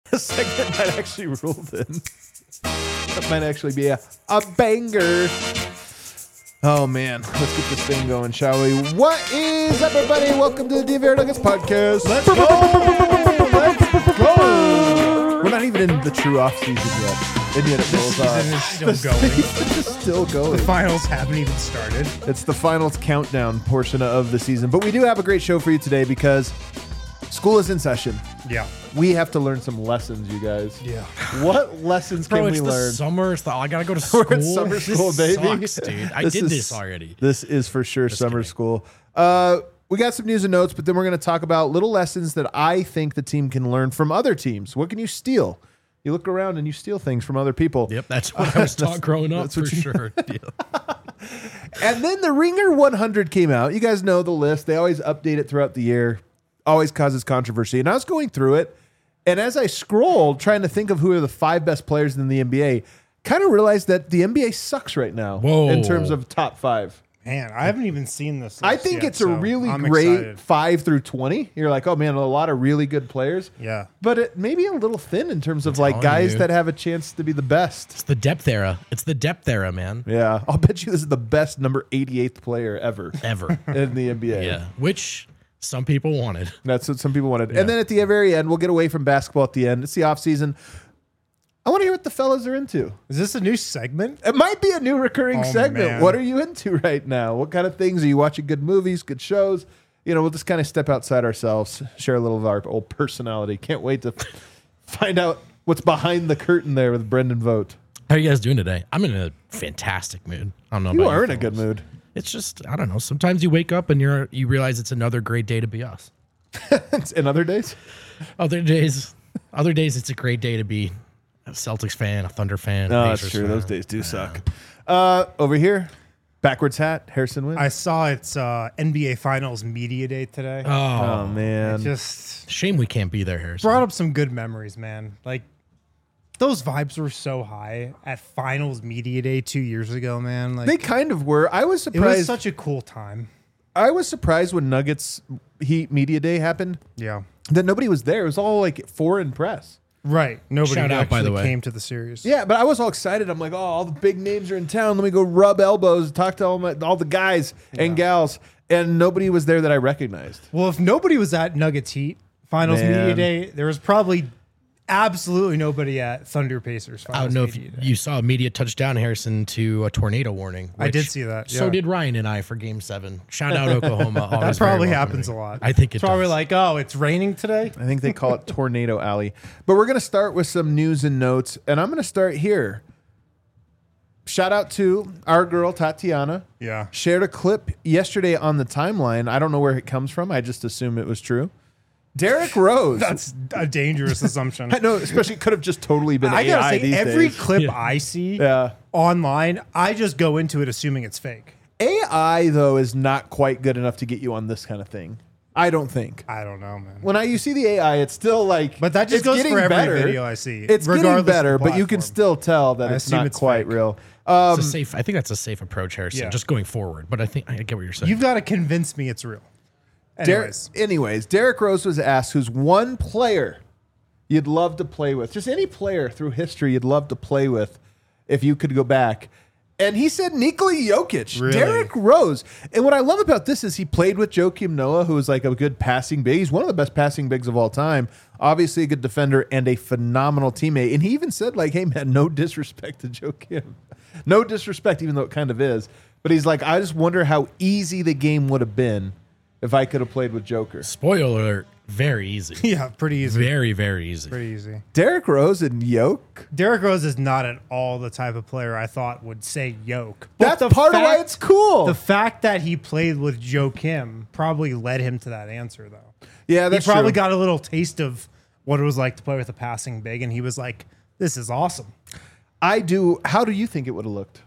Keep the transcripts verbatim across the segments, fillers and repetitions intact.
a segment might actually roll in. That might actually be a, a banger. Oh, man. Let's get this thing going, shall we? What is up, everybody? Welcome to the D V R Nuggets podcast. Let's go! Let's go! We're not even in the true off-season yet. And yet it rolls off. The season is still going. It's still going. The finals haven't even started. It's the finals countdown portion of the season. But we do have a great show for you today because school is in session. Yeah. We have to learn some lessons, you guys. Yeah. What lessons Bro, can it's we the learn? summer. It's the, I gotta go to school. We're in summer school, this baby. Sucks, dude. I This did is- this already. This is for sure Just summer kidding. school. Uh, we got some news and notes, but then we're going to talk about little lessons that I think the team can learn from other teams. What can you steal? You look around and you steal things from other people. Yep, that's what I was taught growing up that's for what you- sure. Yeah. And then the Ringer one hundred came out. You guys know the list. They always update it throughout the year. Always causes controversy. And I was going through it, and as I scrolled, trying to think of who are the five best players in the N B A, kind of realized that the N B A sucks right now Whoa. in terms of top five. Man, I haven't even seen this. I list think yet, it's a so really I'm great excited. five through twenty. You're like, oh man, a lot of really good players. Yeah. But it maybe a little thin in terms of like telling guys you. that have a chance to be the best. It's the depth era. It's the depth era, man. Yeah. I'll bet you this is the best number eighty-eighth player ever Ever. in the N B A. Yeah. Which some people wanted. That's what some people wanted. And then at the very end, we'll get away from basketball at the end. It's the off season. I want to hear what the fellas are into. Is this a new segment? It might be a new recurring Oh, segment. man. What are you into right now? What kind of things are you watching? Good movies, good shows? You know, we'll just kind of step outside ourselves, share a little of our old personality. Can't wait to find out what's behind the curtain there with Brendan Vogt. How are you guys doing today? I'm in a fantastic mood. I don't know You about are in a fellas. good mood. It's just, I don't know. Sometimes you wake up and you're you realize it's another great day to be us. In other days? Other days, other days it's a great day to be a Celtics fan, a Thunder fan. No, a that's Pacers true. fan. Those days do suck. Uh, over here, backwards hat, Harrison Wind. I saw it's uh, N B A Finals Media Day today. Oh, oh, man. It just shame we can't be there, Harrison. brought up some good memories, man. Like, those vibes were so high at Finals Media Day two years ago, man. Like, They kind of were. I was it surprised. was such a cool time. I was surprised when Nuggets Heat Media Day happened Yeah. that nobody was there. It was all like foreign press. Right. Nobody Shout out, actually by the way. came to the series. Yeah, but I was all excited. I'm like, oh, all the big names are in town. Let me go rub elbows, talk to all, my, all the guys and gals. And nobody was there that I recognized. Well, if nobody was at Nuggets Heat Finals Man. Media Day, there was probably absolutely nobody at Thunder Pacers I Finals don't know if Media Day. you saw a media touchdown, Harrison, to a tornado warning. I did which- see that, So yeah. did Ryan and I for Game Seven. Shout out Oklahoma. That always very probably welcoming. happens a lot. I think it it's probably does. like, oh, it's raining today. I think they call it Tornado Alley. But we're going to start with some news and notes. And I'm going to start here. Shout out to our girl, Tatiana. Yeah. Shared a clip yesterday on the timeline. I don't know where it comes from. I just assume it was true. Derrick Rose. That's a dangerous assumption. I know, especially could have just totally been I A gotta I say, these every days. clip Yeah. I see Yeah. online, I just go into it assuming it's fake. A I, though, is not quite good enough to get you on this kind of thing. I don't think. I don't know, man. When I you see the A I, it's still like, But that just it's goes getting for every better. video I see, It's getting regardless of better, the but you can platform. still tell that I it's assume not it's quite fake. real. Um, It's a safe. I think that's a safe approach, Harrison. Yeah. Just going forward. But I think I get what you're saying. You've got to convince me it's real. Der- Anyways, anyways, Derrick Rose was asked who's one player you'd love to play with, just any player through history you'd love to play with if you could go back. And he said Nikola Jokic, Really? Derrick Rose. And what I love about this is he played with Joakim Noah, who is like a good passing big. He's one of the best passing bigs of all time. Obviously a good defender and a phenomenal teammate. And he even said like, hey man, no disrespect to Joakim. No disrespect, even though it kind of is. But he's like, I just wonder how easy the game would have been if I could have played with Joker. Spoiler alert, very easy. yeah, pretty easy. Very, very easy. Pretty easy. Derrick Rose and Yoke? Derrick Rose is not at all the type of player I thought would say yoke. But That's the part of why fact- it's cool. The fact that he played with Joe Kim probably led him to that answer, though. yeah, that's he probably true. got a little taste of what it was like to play with a passing big, and he was like, this is awesome. I do. How do you think it would have looked?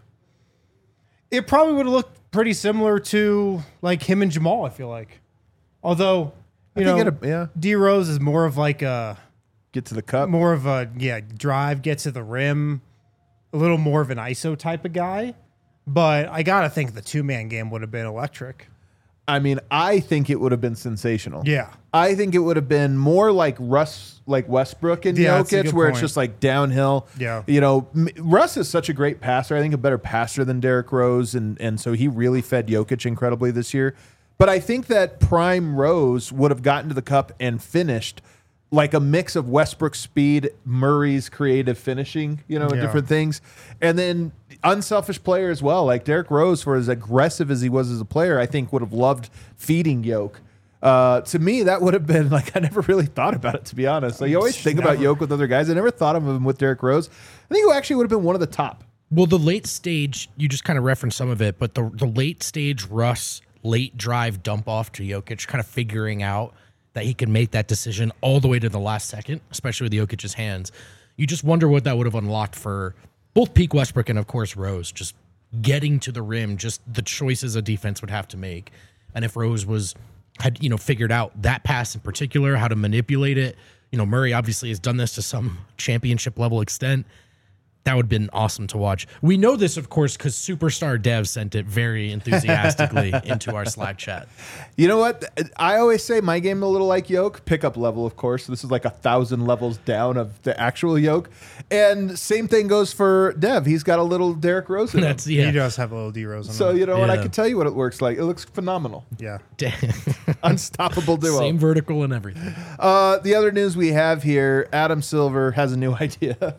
It probably would have looked pretty similar to like him and Jamal, I feel like. Although, you I know, think it'd- yeah. D Rose is more of like a Get to the cup. more of a yeah, drive, get to the rim, a little more of an I S O type of guy. But I gotta think the two man game would have been electric. I mean, I think it would have been sensational. Yeah. I think it would have been more like Russ, like Westbrook and Yeah, that's a Jokic, good where it's point. just like downhill. Yeah. You know, M- Russ is such a great passer. I think a better passer than Derrick Rose, and and so he really fed Jokic incredibly this year. But I think that prime Rose would have gotten to the cup and finished like a mix of Westbrook's speed, Murray's creative finishing, you know, and Yeah. different things. And then unselfish player as well. Like Derrick Rose, for as aggressive as he was as a player, I think would have loved feeding Yoke. Uh, to me, that would have been like, I never really thought about it, to be honest. Like, you always think about Never. Yoke with other guys. I never thought of him with Derrick Rose. I think it actually would have been one of the top. Well, the late stage, you just kind of referenced some of it, but the the late stage Russ late drive dump off to Jokic, kind of figuring out that he can make that decision all the way to the last second, especially with Jokic's hands. You just wonder what that would have unlocked for both Peak Westbrook and, of course, Rose, just getting to the rim, just the choices a defense would have to make. And if Rose was had, you know, figured out that pass in particular, how to manipulate it, you know, Murray obviously has done this to some championship level extent. That would have been awesome to watch. We know this, of course, because Superstar Dev sent it very enthusiastically into our Slack chat. You know what? I always say my game a little like Yoke, pickup level, of course. This is like a thousand levels down of the actual Yoke. And same thing goes for Dev. He's got a little Derrick Rose in him. That's yeah. He does have a little D Rose on So, him. you know what? I Yeah. can tell you what it works like. It looks phenomenal. Yeah. Unstoppable duo. Same vertical and everything. Uh, the other news we have here, Adam Silver has a new idea.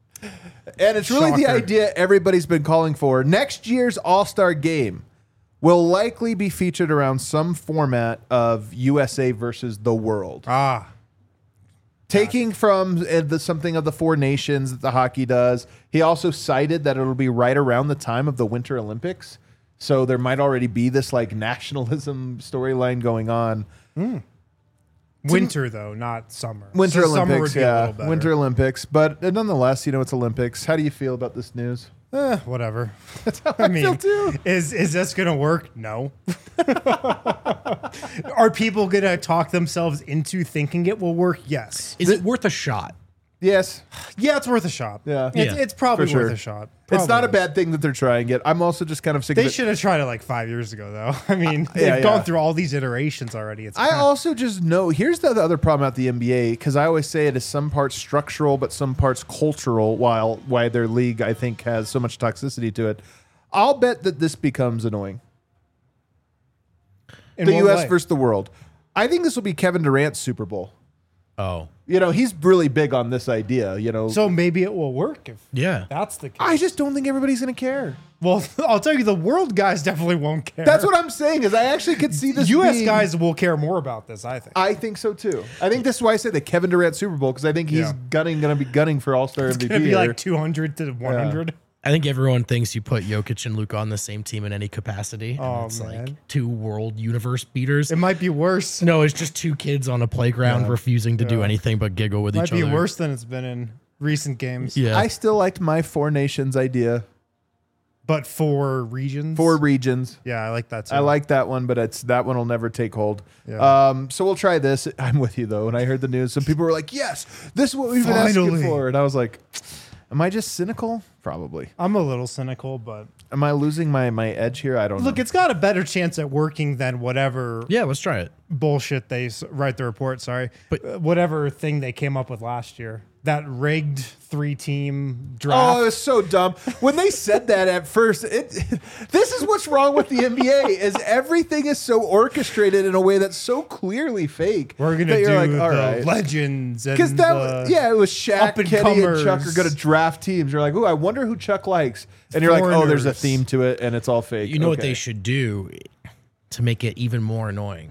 And it's really the Shocker. idea everybody's been calling for. Next year's All-Star game will likely be featured around some format of U S A versus the world. Ah. Taking from uh, the, something of the four nations that the hockey does. He also cited that it'll be right around the time of the Winter Olympics. So there might already be this like nationalism storyline going on. Winter, though, not summer. Winter So summer Olympics, would be a yeah. little better. Winter Olympics. But uh, nonetheless, you know, it's Olympics. How do you feel about this news? Eh, whatever. I, I mean, feel too. is is this gonna work? No. Are people gonna talk themselves into thinking it will work? Yes. Is it worth a shot? Yes. Yeah, it's worth a shot. Yeah. it's, Yeah, it's probably for sure. worth a shot. It's not a Probably is. bad thing that they're trying it. I'm also just kind of sick They of it. should have tried it like five years ago, though. I mean, they've yeah, gone yeah. through all these iterations already. It's I kinda- also just know here's the other problem at the N B A, because I always say it is some parts structural but some parts cultural, while why their league I think has so much toxicity to it. I'll bet that this becomes annoying. in The what U S way? versus the world. I think this will be Kevin Durant's Super Bowl. Oh, You know, he's really big on this idea, you know. So maybe it will work if yeah. that's the case. I just don't think everybody's going to care. Well, I'll tell you, the world guys definitely won't care. That's what I'm saying is I actually could see this U S being- guys will care more about this, I think. I think so too. I think this is why I say the Kevin Durant Super Bowl, because I think he's Yeah. gunning, going to be gunning for All Star M It's V P. going to be here. like two hundred to one hundred. I think everyone thinks you put Jokic and Luka on the same team in any capacity. and Oh, it's man. like two world universe beaters. It might be worse. No, it's just two kids on a playground refusing to do Yeah. anything but giggle with Might each be other. worse than it's been in recent games. Yeah. I still liked my Four Nations idea. But for regions. Four regions. Yeah, I like that too. I like that one, but it's that one will never take hold. Yeah. Um, so we'll try this. I'm with you though. When I heard the news, some people were like, "Yes, this is what we've been Finally. asking for," and I was like, "Am I just cynical? Probably. I'm a little cynical, but Am I losing my my edge here? I don't look, know." it's got a better chance at working than whatever yeah, let's try it. bullshit they s- write the report. Sorry, But- Uh, whatever thing they came up with last year, that rigged three-team Oh, draft. it was so dumb. When they said that at first, it, this is what's wrong with the N B A is everything is so orchestrated in a way that's so clearly fake. We're gonna that do you're like, the all right. legends and Because that, the was, yeah, it was Shaq, Kenny, and up-and-comers. Chuck are going to draft teams. You're like, ooh, I wonder who Chuck likes. And you're like, oh, there's a Foreigners. theme to it, and it's all fake. You know what Okay. they should do to make it even more annoying?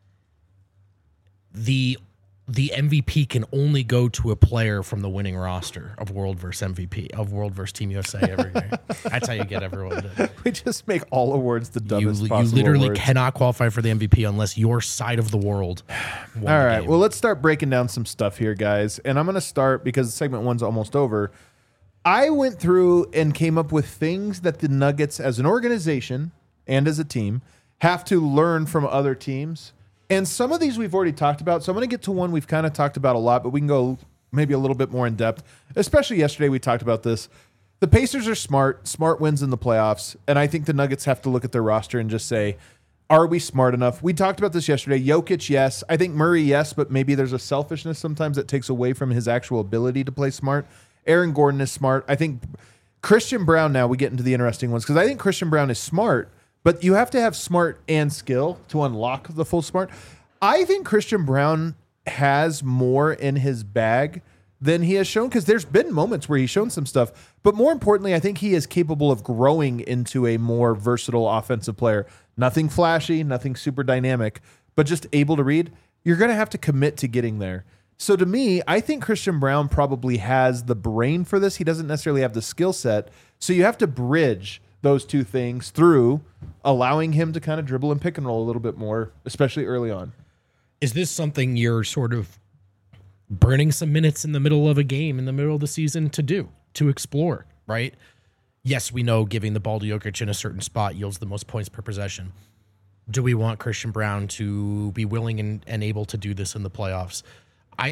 The the M V P can only go to a player from the winning roster of World versus M V P of World versus Team U S A every year. That's how you get everyone to. We just make all awards the You, dumbest you possible literally awards. cannot qualify for the M V P unless your side of the world won All the right. game. Well, let's start breaking down some stuff here, guys. And I'm going to start because segment one's almost over. I went through and came up with things that the Nuggets as an organization and as a team have to learn from other teams. And some of these we've already talked about. So I'm going to get to one we've kind of talked about a lot, but we can go maybe a little bit more in depth. Especially yesterday, we talked about this. The Pacers are smart. Smart wins in the playoffs. And I think the Nuggets have to look at their roster and just say, Are we smart enough? We talked about this yesterday. Jokic, yes. I think Murray, yes, but maybe there's a selfishness sometimes that takes away from his actual ability to play smart. Aaron Gordon is smart. I think Christian Brown, now we get into the interesting ones, because I think Christian Brown is smart, but you have to have smart and skill to unlock the full smart. I think Christian Brown has more in his bag than he has shown, because there's been moments where he's shown some stuff. But more importantly, I think he is capable of growing into a more versatile offensive player. Nothing flashy, nothing super dynamic, but just able to read. You're going to have to commit to getting there. So to me, I think Christian Brown probably has the brain for this. He doesn't necessarily have the skill set. So you have to bridge those two things through allowing him to kind of dribble and pick and roll a little bit more, especially early on. Is this something you're sort of burning some minutes in the middle of a game, in the middle of the season to do, to explore, right? Yes, we know giving the ball to Jokic in a certain spot yields the most points per possession. Do we want Christian Brown to be willing and, and able to do this in the playoffs? I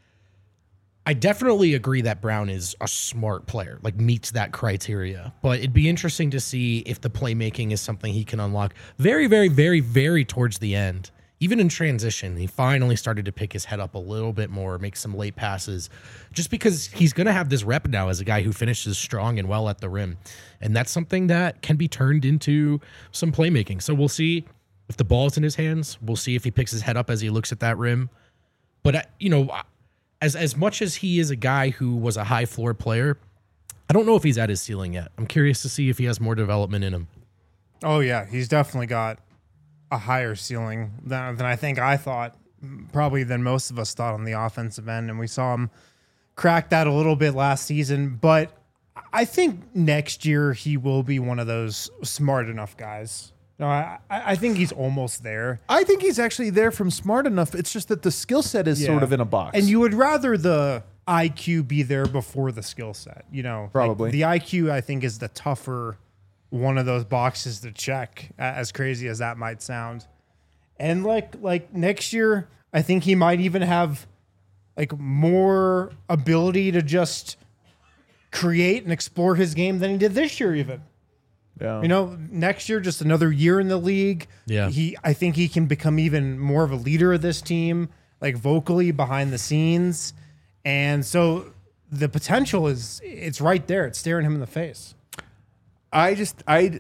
I definitely agree that Brown is a smart player, like meets that criteria. But it'd be interesting to see if the playmaking is something he can unlock very, very, very, very towards the end. Even in transition, he finally started to pick his head up a little bit more, make some late passes, just because he's going to have this rep now as a guy who finishes strong and well at the rim. And that's something that can be turned into some playmaking. So we'll see if the ball's in his hands. We'll see if he picks his head up as he looks at that rim. But, you know, as as much as he is a guy who was a high floor player, I don't know if he's at his ceiling yet. I'm curious to see if he has more development in him. Oh, yeah. He's definitely got a higher ceiling than, than I think I thought, probably than most of us thought on the offensive end. And we saw him crack that a little bit last season. But I think next year he will be one of those smart enough guys. No, I, I think he's almost there. I think he's actually there from smart enough. It's just that the skill set is Yeah. sort of in a box. And you would rather the I Q be there before the skill set, you know? Probably. Like the I Q, I think, is the tougher one of those boxes to check, as crazy as that might sound. And like like next year, I think he might even have like more ability to just create and explore his game than he did this year even. yeah. You know, next year, just another year in the league. Yeah. He, I think he can become even more of a leader of this team, like vocally behind the scenes. And so the potential is, it's right there. It's staring him in the face. I just, I,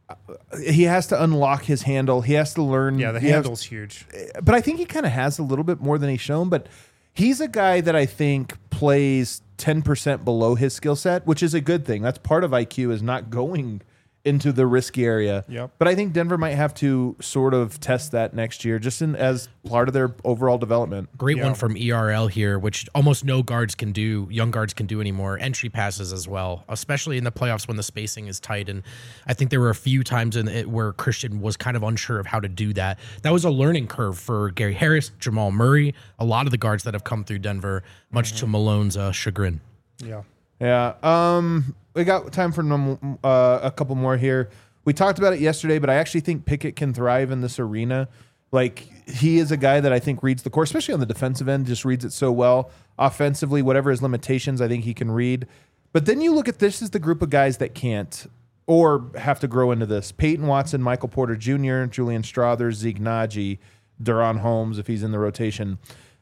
he has to unlock his handle. He has to learn. Yeah, the he has- handle's huge. but I think he kind of has a little bit more than he's shown. But he's a guy that I think plays ten percent below his skill set, which is a good thing. That's part of I Q, is not going into the risky area. Yep. But I think Denver might have to sort of test that next year, just in, as part of their overall development. Great Yeah. one from E R L here, which almost no guards can do, young guards can do anymore. Entry passes as well, especially in the playoffs when the spacing is tight. And I think there were a few times in it where Christian was kind of unsure of how to do that. That was a learning curve for Gary Harris, Jamal Murray, a lot of the guards that have come through Denver, much to Malone's uh, chagrin. Yeah. Yeah. Um, we got time for num- uh, a couple more here. We talked about it yesterday, but I actually think Pickett can thrive in this arena. Like, he is a guy that I think reads the court, especially on the defensive end, just reads it so well. Offensively, whatever his limitations, I think he can read. But then you look at this as the group of guys that can't or have to grow into this. Peyton Watson, Michael Porter Junior, Julian Strawther, Zeke Naji, Duron Holmes, if he's in the rotation.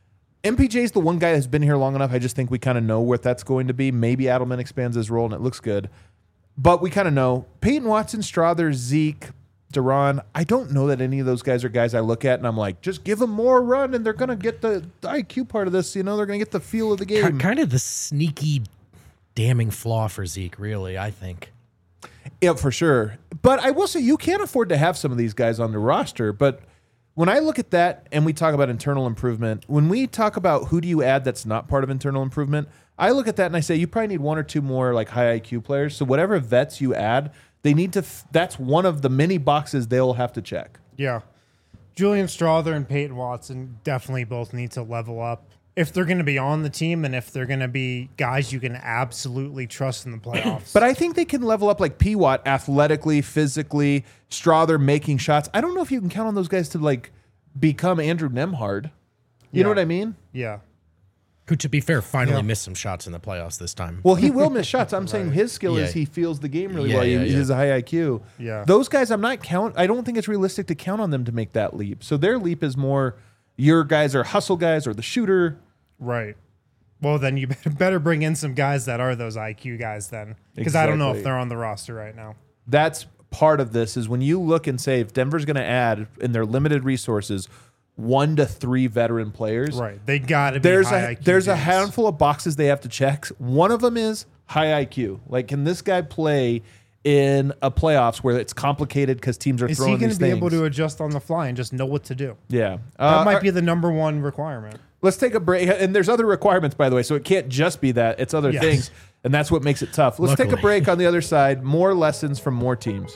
M P J's the one guy that's been here long enough. I just think we kind of know what that's going to be. Maybe Adelman expands his role and it looks good. But we kind of know. Peyton Watson, Strawther, Zeke, Duron. I don't know that any of those guys are guys I look at and I'm like, just give them more run and they're going to get the, the I Q part of this. You know, they're going to get the feel of the game. Kind of the sneaky, damning flaw for Zeke, really, I think. Yeah, for sure. But I will say you can't afford to have some of these guys on the roster. But when I look at that and we talk about internal improvement, when we talk about who do you add that's not part of internal improvement, I look at that and I say you probably need one or two more like high I Q players. So whatever vets you add, they need to. F- that's one of the many boxes they'll have to check. Yeah. Julian Strawther and Peyton Watson definitely both need to level up if they're going to be on the team and if they're going to be guys you can absolutely trust in the playoffs. But I think they can level up like P. Watt athletically, physically, Strawther making shots. I don't know if you can count on those guys to like become Andrew Nemhard. You Yeah. know what I mean? yeah. Who, to be fair, finally Yeah. missed some shots in the playoffs this time. Well, he will miss shots. I'm saying his skill Yeah. is he feels the game really Yeah, well. He, yeah, he yeah. has a high I Q. Yeah. Those guys, I'm not count. I don't think it's realistic to count on them to make that leap. So their leap is more your guys are hustle guys or the shooter. Right. Well, then you better, better bring in some guys that are those I Q guys then. Because I don't know if Exactly. they're on the roster right now. That's part of this is when you look and say if Denver's going to add in their limited resources one to three veteran players. Right. They got to be There's high a I Q there's a dudes. handful of boxes they have to check. One of them is high I Q. Like, can this guy play in a playoffs where it's complicated because teams are Is he throwing going these to be things? able to adjust on the fly and just know what to do? Yeah, That uh, might all be the number one requirement. Let's take a break. And there's other requirements, by the way, so it can't just be that. It's other Yes. things, and that's what makes it tough. Let's take a Luckily. break. On the other side, more lessons from more teams.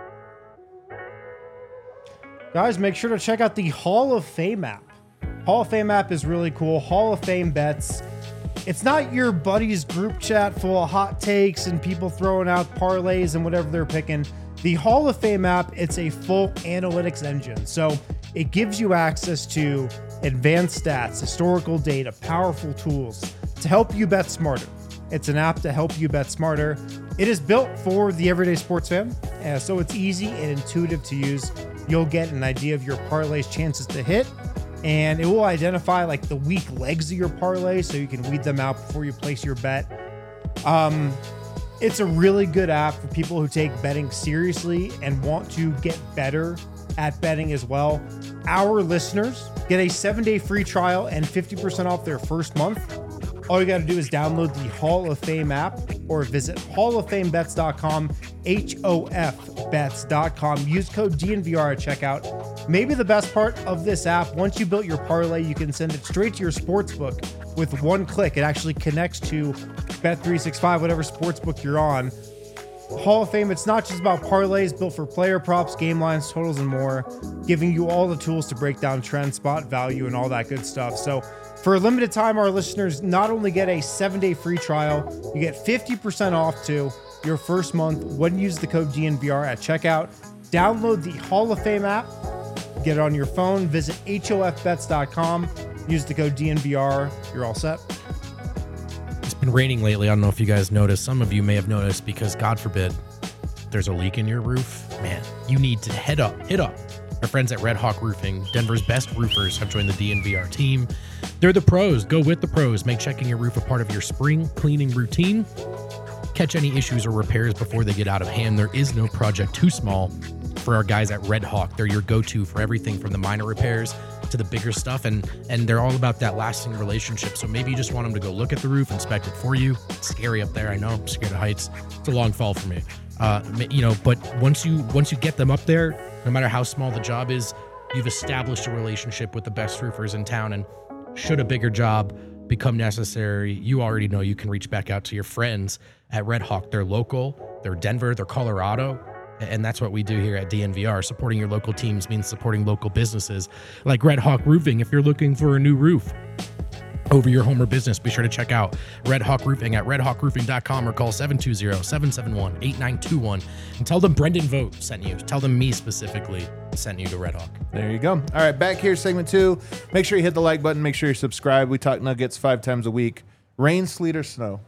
Guys, make sure to check out the Hall of Fame app. Hall of Fame app is really cool. Hall of Fame bets. It's not your buddy's group chat full of hot takes and people throwing out parlays and whatever they're picking. The Hall of Fame app, it's a full analytics engine. So it gives you access to advanced stats, historical data, powerful tools to help you bet smarter. It's an app to help you bet smarter. It is built for the everyday sports fan, uh, so it's easy and intuitive to use. You'll get an idea of your parlay's chances to hit, and it will identify like the weak legs of your parlay so you can weed them out before you place your bet. Um, it's a really good app for people who take betting seriously and want to get better at betting as well. Our listeners get a seven-day free trial and fifty percent off their first month. All you got to do is download the Hall of Fame app or visit hall of fame bets dot com, H O F bets dot com. Use code D N V R at checkout. Maybe the best part of this app, once you built your parlay, you can send it straight to your sportsbook with one click. It actually connects to Bet three sixty-five, whatever sportsbook you're on. Hall of Fame, it's not just about parlays built for player props, game lines, totals, and more, giving you all the tools to break down trend, spot value, and all that good stuff. So for a limited time, our listeners not only get a seven-day free trial, you get fifty percent off to your first month when you use the code D N V R at checkout. Download the Hall of Fame app, get it on your phone, visit H O F bets dot com, use the code D N V R, you're all set. It's been raining lately. I don't know if you guys noticed. Some of you may have noticed because, God forbid, there's a leak in your roof. Man, you need to head up, hit up. Our friends at Red Hawk Roofing, Denver's best roofers, have joined the D N V R team. They're the pros. Go with the pros. Make checking your roof a part of your spring cleaning routine. Catch any issues or repairs before they get out of hand. There is no project too small for our guys at Red Hawk. They're your go-to for everything from the minor repairs to the bigger stuff, and and they're all about that lasting relationship. So maybe you just want them to go look at the roof, inspect it for you. It's scary up there, I know. I'm scared of heights. It's a long fall for me. Uh, you know, but once you once you get them up there, no matter how small the job is, you've established a relationship with the best roofers in town. And should a bigger job become necessary, you already know you can reach back out to your friends at Red Hawk. They're local, they're Denver, they're Colorado. And that's what we do here at D N V R. Supporting your local teams means supporting local businesses like Red Hawk Roofing. If you're looking for a new roof over your home or business, be sure to check out Red Hawk Roofing at red hawk roofing dot com or call seven two zero, seven seven one, eight nine two one and tell them Brendan Vogt sent you. Tell them me specifically sent you to Red Hawk. There you go. All right, back here, segment two. Make sure you hit the like button. Make sure you subscribe. We talk Nuggets five times a week. Rain, sleet, or snow.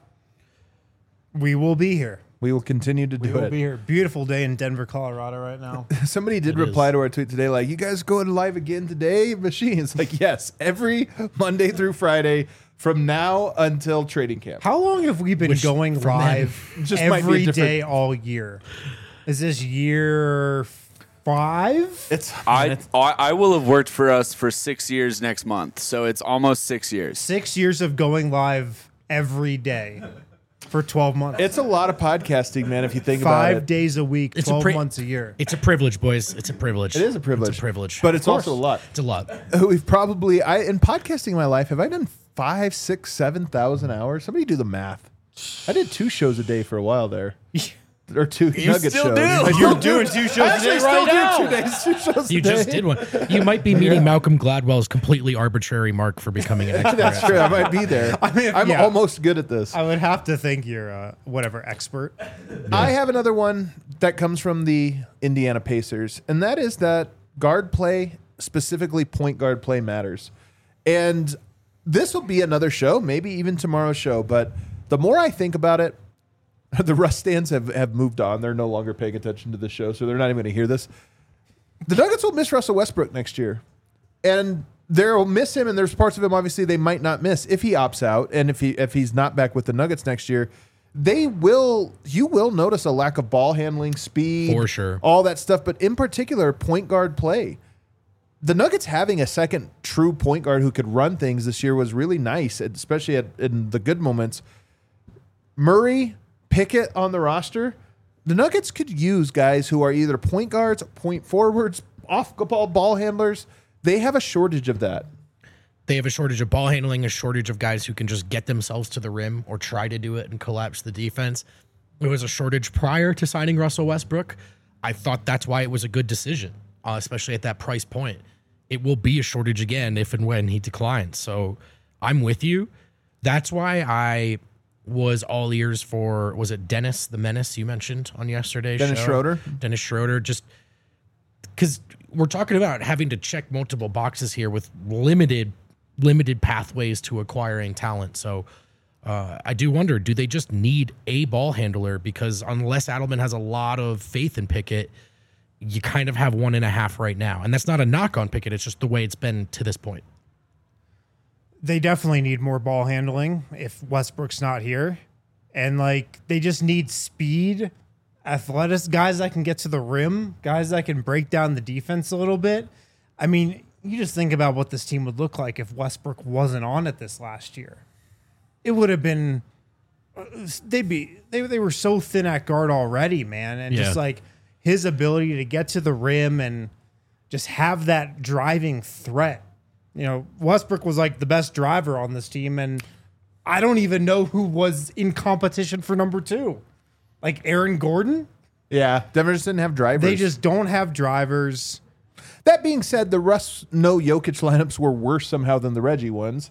We will be here. We will continue to do We will it. be here. Beautiful day in Denver, Colorado right now. Somebody did It reply is. to our tweet today, like, you guys going live again today, Machine? It's like, yes, every Monday through Friday from now until trading camp. How long have we been Which, going from live Just might be a every different- day all year? Is this year five? It's I, I I will have worked for us for six years next month, so it's almost six years. Six years of going live every day for twelve months. it's a lot of podcasting, man. If you think about Five it, days a week, It's a twelve pri- months a year. It's a privilege, boys. It's a privilege. it is a privilege. It's a privilege. but it's also a lot. It's a lot. We've probably I in podcasting in my life. Have I done five, six, seven thousand hours? Somebody do the math. I did two shows a day for a while there, or two You Nugget still shows. do. I You're still doing two shows I a actually day still right do now. two days, two shows You a day. just did one. You might be meeting Malcolm Gladwell's completely arbitrary mark for becoming an expert. That's true. I might be there. I mean, I'm yeah. almost good at this. I would have to think you're a whatever expert. I have another one that comes from the Indiana Pacers, and that is that guard play, specifically point guard play, matters. And this will be another show, maybe even tomorrow's show. But the more I think about it, the Russ stands have, have moved on. They're no longer paying attention to the show, so they're not even going to hear this. The Nuggets will miss Russell Westbrook next year. And they'll miss him, and there's parts of him, obviously, they might not miss if he opts out and if he if he's not back with the Nuggets next year. They will, you will notice a lack of ball handling, speed, For sure. all that stuff, but in particular, point guard play. The Nuggets having a second true point guard who could run things this year was really nice, especially at, in the good moments. Murray, Pickett on the roster. The Nuggets could use guys who are either point guards, point forwards, off-ball ball handlers. They have a shortage of that. They have a shortage of ball handling, a shortage of guys who can just get themselves to the rim or try to do it and collapse the defense. It was a shortage prior to signing Russell Westbrook. I thought that's why it was a good decision, uh, especially at that price point. It will be a shortage again if and when he declines. So I'm with you. That's why I was all ears for, was it Dennis the Menace you mentioned on yesterday's Dennis show? Schroeder? Dennis Schroeder, just because we're talking about having to check multiple boxes here with limited limited pathways to acquiring talent. So uh, I do wonder, do they just need a ball handler? Because unless Adelman has a lot of faith in Pickett, you kind of have one and a half right now. And that's not a knock on Pickett. It's just the way it's been to this point. They definitely need more ball handling if Westbrook's not here. And like they just need speed, athletic guys that can get to the rim, guys that can break down the defense a little bit. I mean, you just think about what this team would look like if Westbrook wasn't on it this last year. It would have been they'd be they they were so thin at guard already, man. And Yeah. just like his ability to get to the rim and just have that driving threat. You know, Westbrook was like the best driver on this team, and I don't even know who was in competition for number two. Like Aaron Gordon? Yeah, Denver just didn't have drivers. They just don't have drivers. That being said, the Russ no Jokic lineups were worse somehow than the Reggie ones.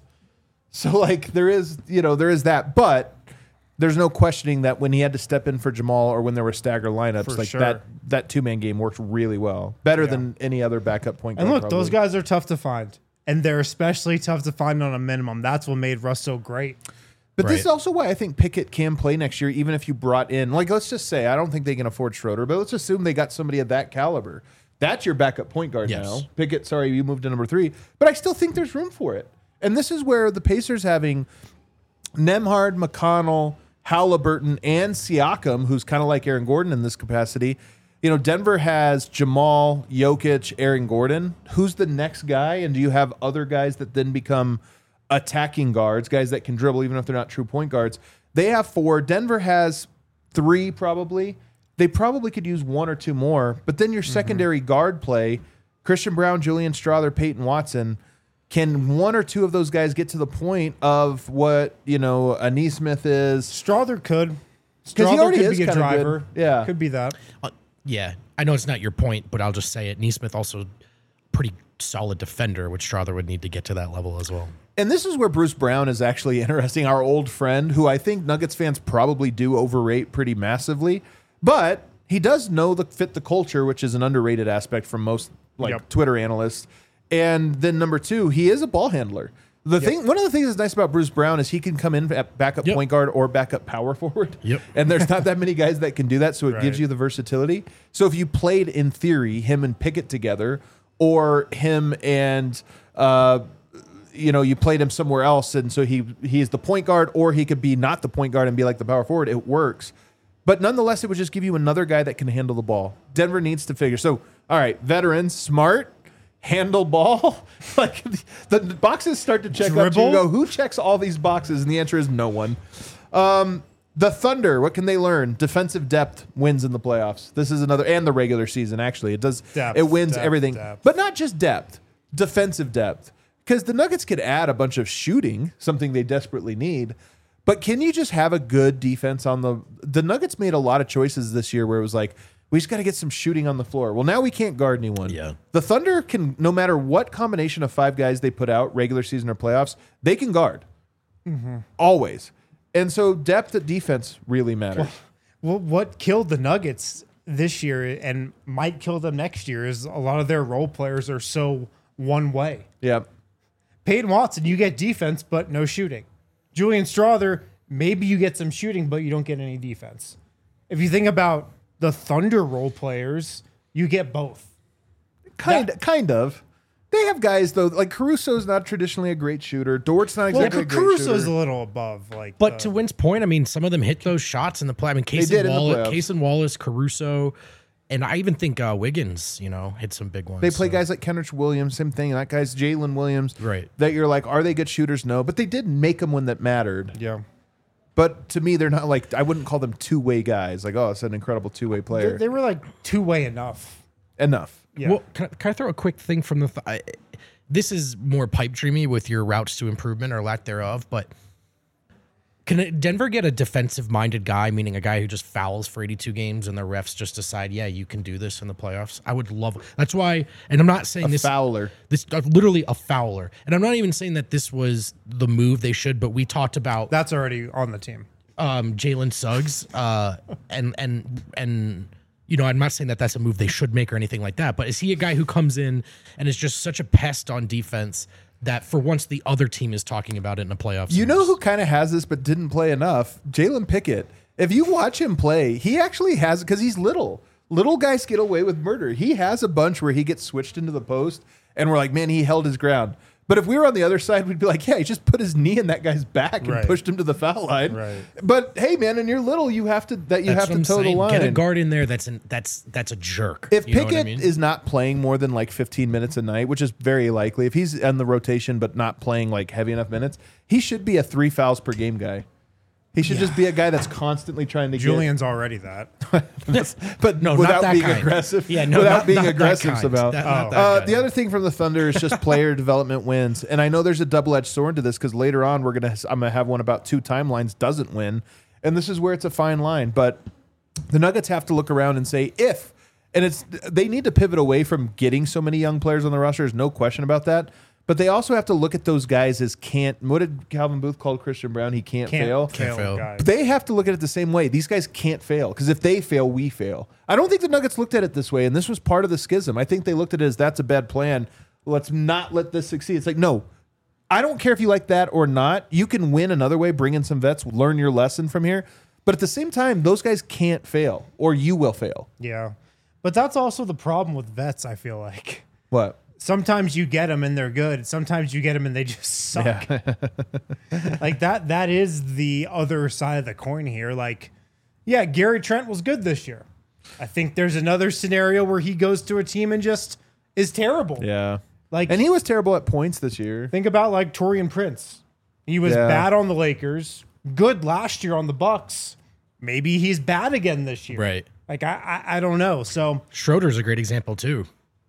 So like there is, you know, there is that, but there's no questioning that when he had to step in for Jamal or when there were stagger lineups, For like sure. that that two man game worked really well, better Yeah. than any other backup point guard. And look, probably. those guys are tough to find. And they're especially tough to find on a minimum. That's what made Russ so great. But this Right. is also why I think Pickett can play next year, even if you brought in, like, let's just say, I don't think they can afford Schroeder, but let's assume they got somebody of that caliber. That's your backup point guard Yes. now. Pickett, sorry, you moved to number three, but I still think there's room for it. And this is where the Pacers having Nembhard, McConnell, Halliburton, and Siakam, who's kind of like Aaron Gordon in this capacity. You know, Denver has Jamal, Jokic, Aaron Gordon. Who's the next guy? And do you have other guys that then become attacking guards, guys that can dribble even if they're not true point guards? They have four. Denver has three probably. They probably could use one or two more. But then your secondary guard play, Christian Brown, Julian Strawther, Peyton Watson, can one or two of those guys get to the point of what, you know, a Neesmith is? Strawther could. 'Cause he Strawther already could is be a kinda good. driver. Yeah. Could be that. Uh, yeah, I know it's not your point, but I'll just say it. Neesmith also pretty solid defender, which Strother would need to get to that level as well. And this is where Bruce Brown is actually interesting, our old friend, who I think Nuggets fans probably do overrate pretty massively. But he does know the fit the culture, which is an underrated aspect from most like Yep. Twitter analysts. And then number two, he is a ball handler. The thing, one of the things that's nice about Bruce Brown is he can come in at backup Yep. point guard or backup power forward. Yep. And there's not that many guys that can do that, so it gives Right. you the versatility. So if you played in theory him and Pickett together, or him and uh, you know you played him somewhere else, and so he he's the point guard, or he could be not the point guard and be like the power forward. It works. But nonetheless, it would just give you another guy that can handle the ball. Denver needs to figure. So, all right, veterans, smart, handle ball. Like the, the boxes start to check out. You Dribble? go, who checks all these boxes? And the answer is no one. Um, the Thunder, what can they learn? Defensive depth wins in the playoffs. This is another, and the regular season. Actually, it does. Depth, it wins depth, everything, depth. but not just depth. Defensive depth, because the Nuggets could add a bunch of shooting, something they desperately need. But can you just have a good defense on the? The Nuggets made a lot of choices this year where it was like, we just got to get some shooting on the floor. Well, now we can't guard anyone. Yeah. The Thunder can, no matter what combination of five guys they put out, regular season or playoffs, they can guard. Always. And so depth at defense really matters. Well, what killed the Nuggets this year and might kill them next year is a lot of their role players are so one way. Yeah. Peyton Watson, you get defense, but no shooting. Julian Strother, maybe you get some shooting, but you don't get any defense. If you think about the Thunder role players, you get both. Kind That- kind of. They have guys though, like Caruso's not traditionally a great shooter. Dort's not Well, exactly a great Caruso's shooter. a little above. Like, But the- to Wynn's point, I mean, some of them hit those shots in the play. I mean, Case did and in the Wallace, playoffs. Case and Wallace, Caruso, and I even think uh, Wiggins, you know, hit some big ones. They play so. guys like Kenrich Williams, same thing. That guy's Jalen Williams. Right. That you're like, are they good shooters? No, but they did make them when that mattered. yeah, But to me, they're not like, I wouldn't call them two way guys. Like, oh, it's an incredible two way they, player. they were like two way enough. Enough. Yeah. Well, can I, can I throw a quick thing from the? Th- I, this is more pipe dreamy with your routes to improvement or lack thereof, but can Denver get a defensive minded guy, meaning a guy who just fouls for eighty-two games and the refs just decide, yeah, you can do this in the playoffs? I would love. That's why, and I'm not saying A this. Fowler. This uh, literally a fouler, and I'm not even saying that this was the move they should. But we talked about That's already on the team. um, Jalen Suggs, uh, and and and you know, I'm not saying that that's a move they should make or anything like that. But is he a guy who comes in and is just such a pest on defense that for once the other team is talking about it in the playoffs? You know who kind of has this but didn't play enough? Jalen Pickett. If you watch him play, he actually has, because he's little. Little guys get away with murder. He has a bunch where he gets switched into the post, and we're like, man, he held his ground. But if we were on the other side, we'd be like, yeah, he just put his knee in that guy's back and Right. pushed him to the foul line. Right. But hey, man, and you're little, you have to that you That's have what to I'm toe the saying. line. Get a guard in there. That's an, that's that's a jerk. If You know Pickett what I mean? is not playing more than like fifteen minutes a night, which is very likely, if he's on the rotation but not playing like heavy enough minutes, he should be a three fouls per game guy. He should just be a guy that's constantly trying to Julian's already that. get, but No, not without that being kind. aggressive. Yeah, no, without not- being not that aggressive kind. about. That- not that uh, kind. the other thing from the Thunder is just player development wins, and I know there's a double edged sword to this because later on we're gonna I'm gonna have one about two timelines doesn't win, and this is where it's a fine line. But the Nuggets have to look around and say if, and it's they need to pivot away from getting so many young players on the roster. There's no question about that. But they also have to look at those guys as can't. What did Calvin Booth call Christian Brown? He can't, Can't fail. fail, fail. guys. But they have to look at it the same way. These guys can't fail because if they fail, we fail. I don't think the Nuggets looked at it this way, and this was part of the schism. I think they looked at it as that's a bad plan. Let's not let this succeed. It's like, no, I don't care if you like that or not. You can win another way, bring in some vets, learn your lesson from here. But at the same time, those guys can't fail, or you will fail. Yeah. But that's also the problem with vets, I feel like. What? Sometimes you get them and they're good. Sometimes you get them and they just suck. Like that that is the other side of the coin here. Like, yeah, Gary Trent was good this year. I think there's another scenario where he goes to a team and just is terrible. Yeah. Like, And he was terrible at points this year. think about like Torian Prince. He was Yeah. bad on the Lakers, good last year on the Bucks. Maybe he's bad again this year. Right. Like I I, I don't know. So Schroeder's a great example too.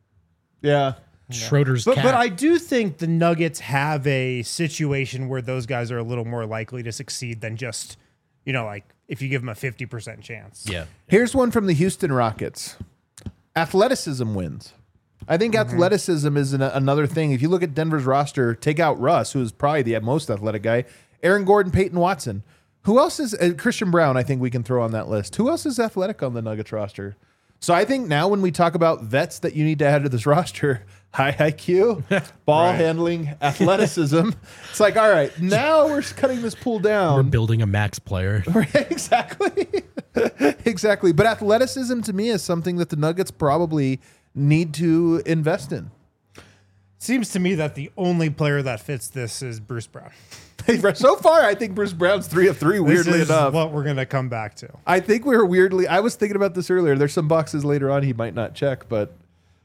Yeah. Schroeder's But cat. but I do think the Nuggets have a situation where those guys are a little more likely to succeed than just, you know, like if you give them a fifty percent chance. yeah. Here's one from the Houston Rockets. Athleticism wins. I think athleticism is an, another thing. If you look at Denver's roster, take out Russ, who's probably the most athletic guy, Aaron Gordon, Peyton Watson. Who else is uh, Christian Brown? I think we can throw on that list. Who else is athletic on the Nuggets roster? So I think now when we talk about vets that you need to add to this roster, high I Q, ball Right. handling, athleticism. It's like, all right, now we're cutting this pool We're down. building a max player. exactly. exactly. But athleticism to me is something that the Nuggets probably need to invest in. Seems to me that the only player that fits this is Bruce Brown. So far, I think Bruce Brown's three of three, weirdly this is enough. what we're gonna come back to. I think we were weirdly. I was thinking about this earlier. There's some boxes later on he might not check, but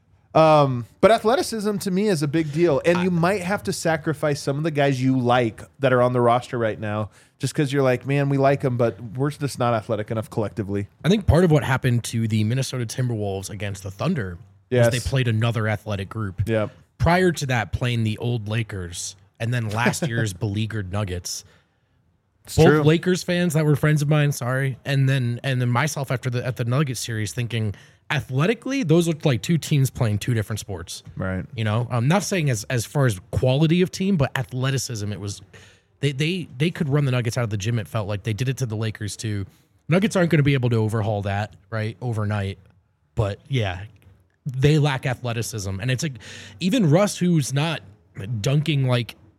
um, but athleticism to me is a big deal, and you might have to sacrifice some of the guys you like that are on the roster right now, just because you're like, man, we like them, but we're just not athletic enough collectively. I think part of what happened to the Minnesota Timberwolves against the Thunder Yes. was they played another athletic group. Yeah, Prior to that, playing the old Lakers, and then last year's beleaguered Nuggets. it's Both true. Lakers fans that were friends of mine, sorry, and then and then myself after the at the Nuggets series, thinking athletically, those looked like two teams playing two different sports. Right. You know, I'm not saying as as far as quality of team, but athleticism. It was they they they could run the Nuggets out of the gym. It felt like they did it to the Lakers too. Nuggets aren't going to be able to overhaul that right overnight, but yeah, they lack athleticism, and it's like even Russ, who's not dunking like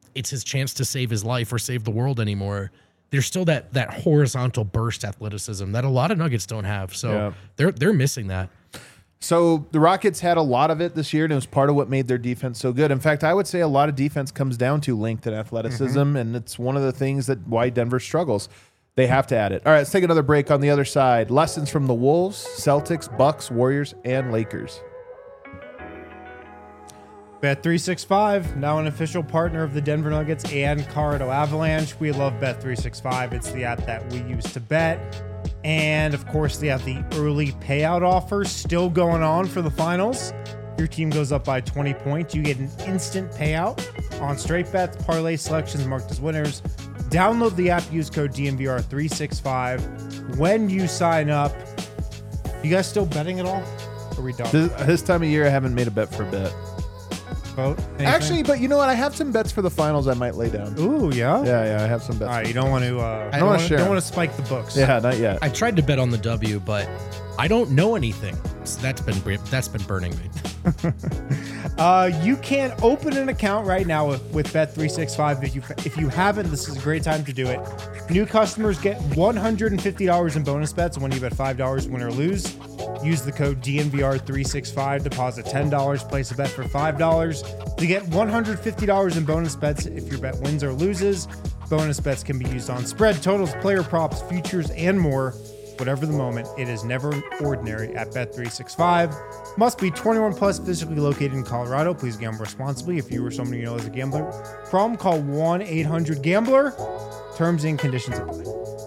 it's his chance to save his life or save the world anymore. There's still that that horizontal burst athleticism that a lot of Nuggets don't have. So Yeah. they're they're missing that. So the Rockets had a lot of it this year, and it was part of what made their defense so good. In fact, I would say a lot of defense comes down to length and athleticism, Mm-hmm. and it's one of the things that why Denver struggles. They have to add it. All right, let's take another break on the other side. Lessons from the Wolves, Celtics, Bucks, Warriors, and Lakers. Bet three sixty-five, now an official partner of the Denver Nuggets and Colorado Avalanche. We love Bet three sixty-five. It's the app that we use to bet. And of course, they have the early payout offer still going on for the finals. Your team goes up by twenty points. You get an instant payout on straight bets, parlay selections marked as winners. Download the app, use code D N V R three sixty-five when you sign up. You guys still betting at all? Or are we done? This, this time of year, I haven't made a bet for a bit. Vote? Anything? Actually, but you know what? I have some bets for the finals I might lay down. Ooh, yeah? Yeah, yeah, I have some bets. All right, you don't want to. Uh, I don't wanna want share Don't 'em. want to spike the books. Yeah, not yet. I tried to bet on the W, but I don't know anything. So that's been that's been burning me. Uh, you can open an account right now with, with Bet three sixty-five. If you if you haven't, this is a great time to do it. New customers get one hundred fifty dollars in bonus bets when you bet five dollars, win or lose. Use the code D N V R three sixty-five. Deposit ten dollars. Place a bet for five dollars to get one hundred fifty dollars in bonus bets if your bet wins or loses. Bonus bets can be used on spread, totals, player props, futures, and more. Whatever the moment, it is never ordinary at Bet three sixty-five. Must be twenty-one plus, physically located in Colorado. Please gamble responsibly. If you or someone you know is a gambler, problem, call one eight hundred gambler. Terms and conditions apply.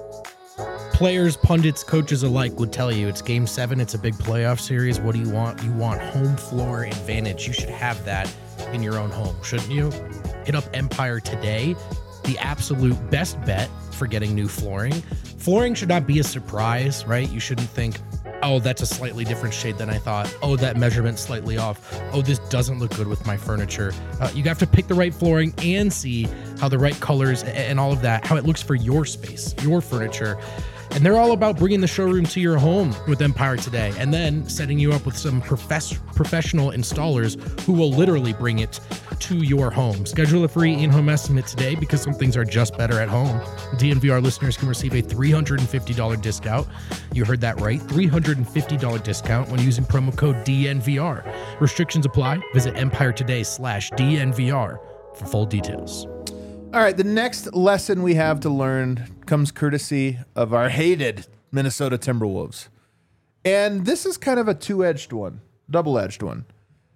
Players, pundits, coaches alike would tell you it's game seven. It's a big playoff series. What do you want? You want home floor advantage. You should have that in your own home, shouldn't you? Hit up Empire today. The absolute best bet for getting new flooring. Flooring should not be a surprise, right? You shouldn't think, oh, that's a slightly different shade than I thought. Oh, that measurement's slightly off. Oh, this doesn't look good with my furniture. Uh, you have to pick the right flooring and see how the right colors and all of that, how it looks for your space, your furniture. And they're all about bringing the showroom to your home with Empire today, and then setting you up with some profess- professional installers who will literally bring it to your home. Schedule a free in-home estimate today because some things are just better at home. D N V R listeners can receive a three hundred fifty dollars discount. You heard that right, three hundred fifty dollars discount when using promo code D N V R. Restrictions apply. Visit Empire today slash D N V R for full details. All right, the next lesson we have to learn comes courtesy of our hated Minnesota Timberwolves. And this is kind of a two-edged one, double-edged one.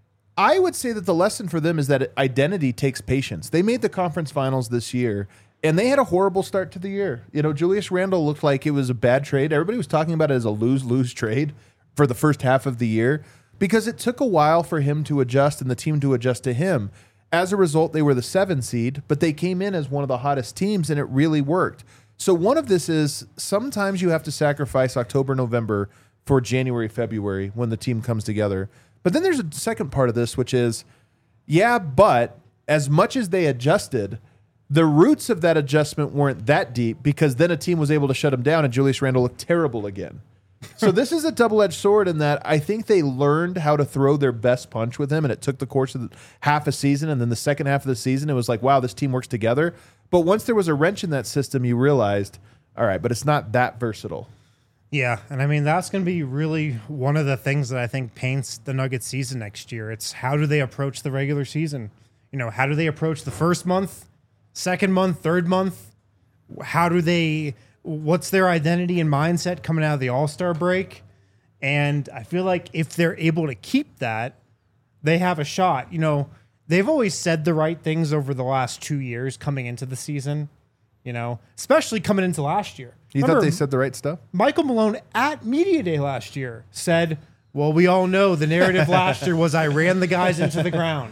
I would say that the lesson for them is that identity takes patience. They made the conference finals this year, and they had a horrible start to the year. You know, Julius Randle looked like it was a bad trade. Everybody was talking about it as a lose-lose trade for the first half of the year because it took a while for him to adjust and the team to adjust to him. As a result, they were the seven seed, but they came in as one of the hottest teams, and it really worked. So one of this is sometimes you have to sacrifice October, November for January, February when the team comes together. But then there's a second part of this, which is, yeah, but as much as they adjusted, the roots of that adjustment weren't that deep because then a team was able to shut them down and Julius Randle looked terrible again. So this is a double-edged sword in that I think they learned how to throw their best punch with him, and it took the course of the, half a season, and then the second half of the season, it was like, wow, this team works together. But once there was a wrench in that system, you realized, all right, but it's not that versatile. Yeah, and I mean, that's going to be really one of the things that I think paints the Nuggets season next year. It's how do they approach the regular season? You know, how do they approach the first month, second month, third month? How do they... What's their identity and mindset coming out of the All-Star break? And I feel like if they're able to keep that, they have a shot. You know, they've always said the right things over the last two years coming into the season, you know, especially coming into last year. You Remember, thought they said the right stuff? Michael Malone at Media Day last year said, well, we all know the narrative last year was I ran the guys into the ground.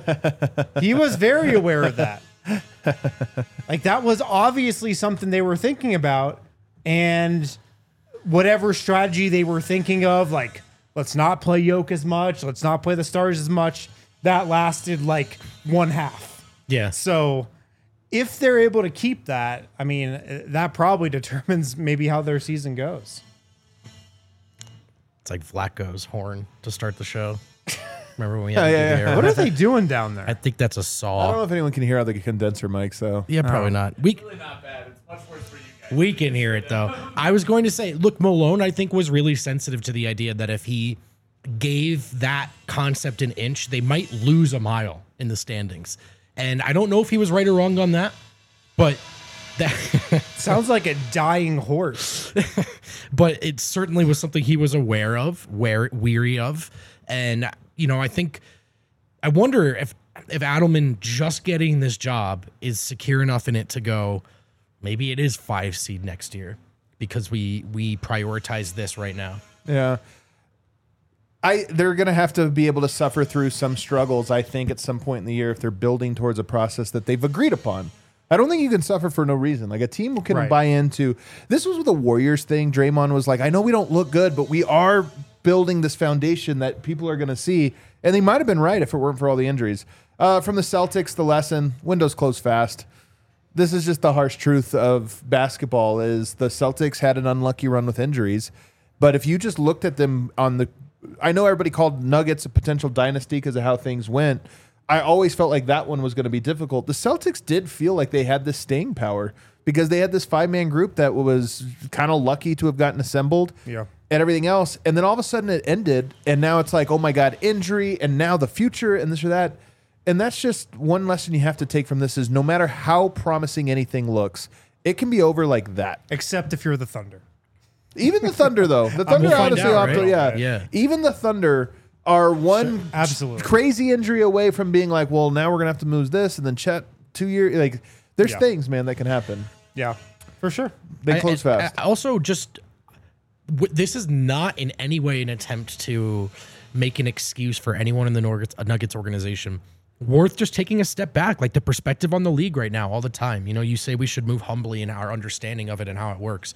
He was very aware of that. Like that was obviously something they were thinking about, and whatever strategy they were thinking of, like let's not play Yoke as much, let's not play the stars as much, that lasted like one half. Yeah. So if they're able to keep that, I mean, that probably determines maybe how their season goes. It's like Flacco's horn to start the show. Remember when we had Oh, to yeah, do the yeah. air What are horn? they doing down I there? think that's a I don't saw. know if anyone can hear out the condenser mic, so. Yeah, probably not. We Really not bad. It's much worse for you guys. we can hear it though. I was going to say, look, Malone, I think was really sensitive to the idea that if he gave that concept an inch, they might lose a mile in the standings. And I don't know if he was right or wrong on that, but that Sounds like a dying horse. but it certainly was something he was aware of, where weary of. And you know, I think I wonder if if Adelman just getting this job is secure enough in it to go, maybe it is five seed next year because we we prioritize this right now. Yeah. I they're going to have to be able to suffer through some struggles, I think, at some point in the year if they're building towards a process that they've agreed upon. I don't think you can suffer for no reason. Like a team can Right. buy into this was with the Warriors thing. Draymond was like, I know we don't look good, but we are building this foundation that people are going to see. And they might have been right if it weren't for all the injuries. Uh, from the Celtics, the lesson, windows close fast. This is just the harsh truth of basketball is the Celtics had an unlucky run with injuries. But if you just looked at them on the, I know everybody called Nuggets a potential dynasty because of how things went. I always felt like that one was going to be difficult. The Celtics did feel like they had this staying power because they had this five-man group that was kind of lucky to have gotten assembled Yeah. and everything else. And then all of a sudden it ended, and now it's like, oh my God, injury, and now the future, and this or that. And that's just one lesson you have to take from this is no matter how promising anything looks, it can be over like that. Except if you're the Thunder. Even the Thunder, though. The Thunder, We'll find honestly, out, opted- right? yeah. Yeah. Even the Thunder are one absolutely. crazy injury away from being like, well, now we're going to have to move this, and then Chet two years. Like, there's Yeah. things, man, that can happen. Yeah, for sure. They I- close I- fast. I also, just w- this is not in any way an attempt to make an excuse for anyone in the Nuggets, uh, Nuggets organization. Worth just taking a step back, like the perspective on the league right now, all the time. You know, you say we should move humbly in our understanding of it and how it works.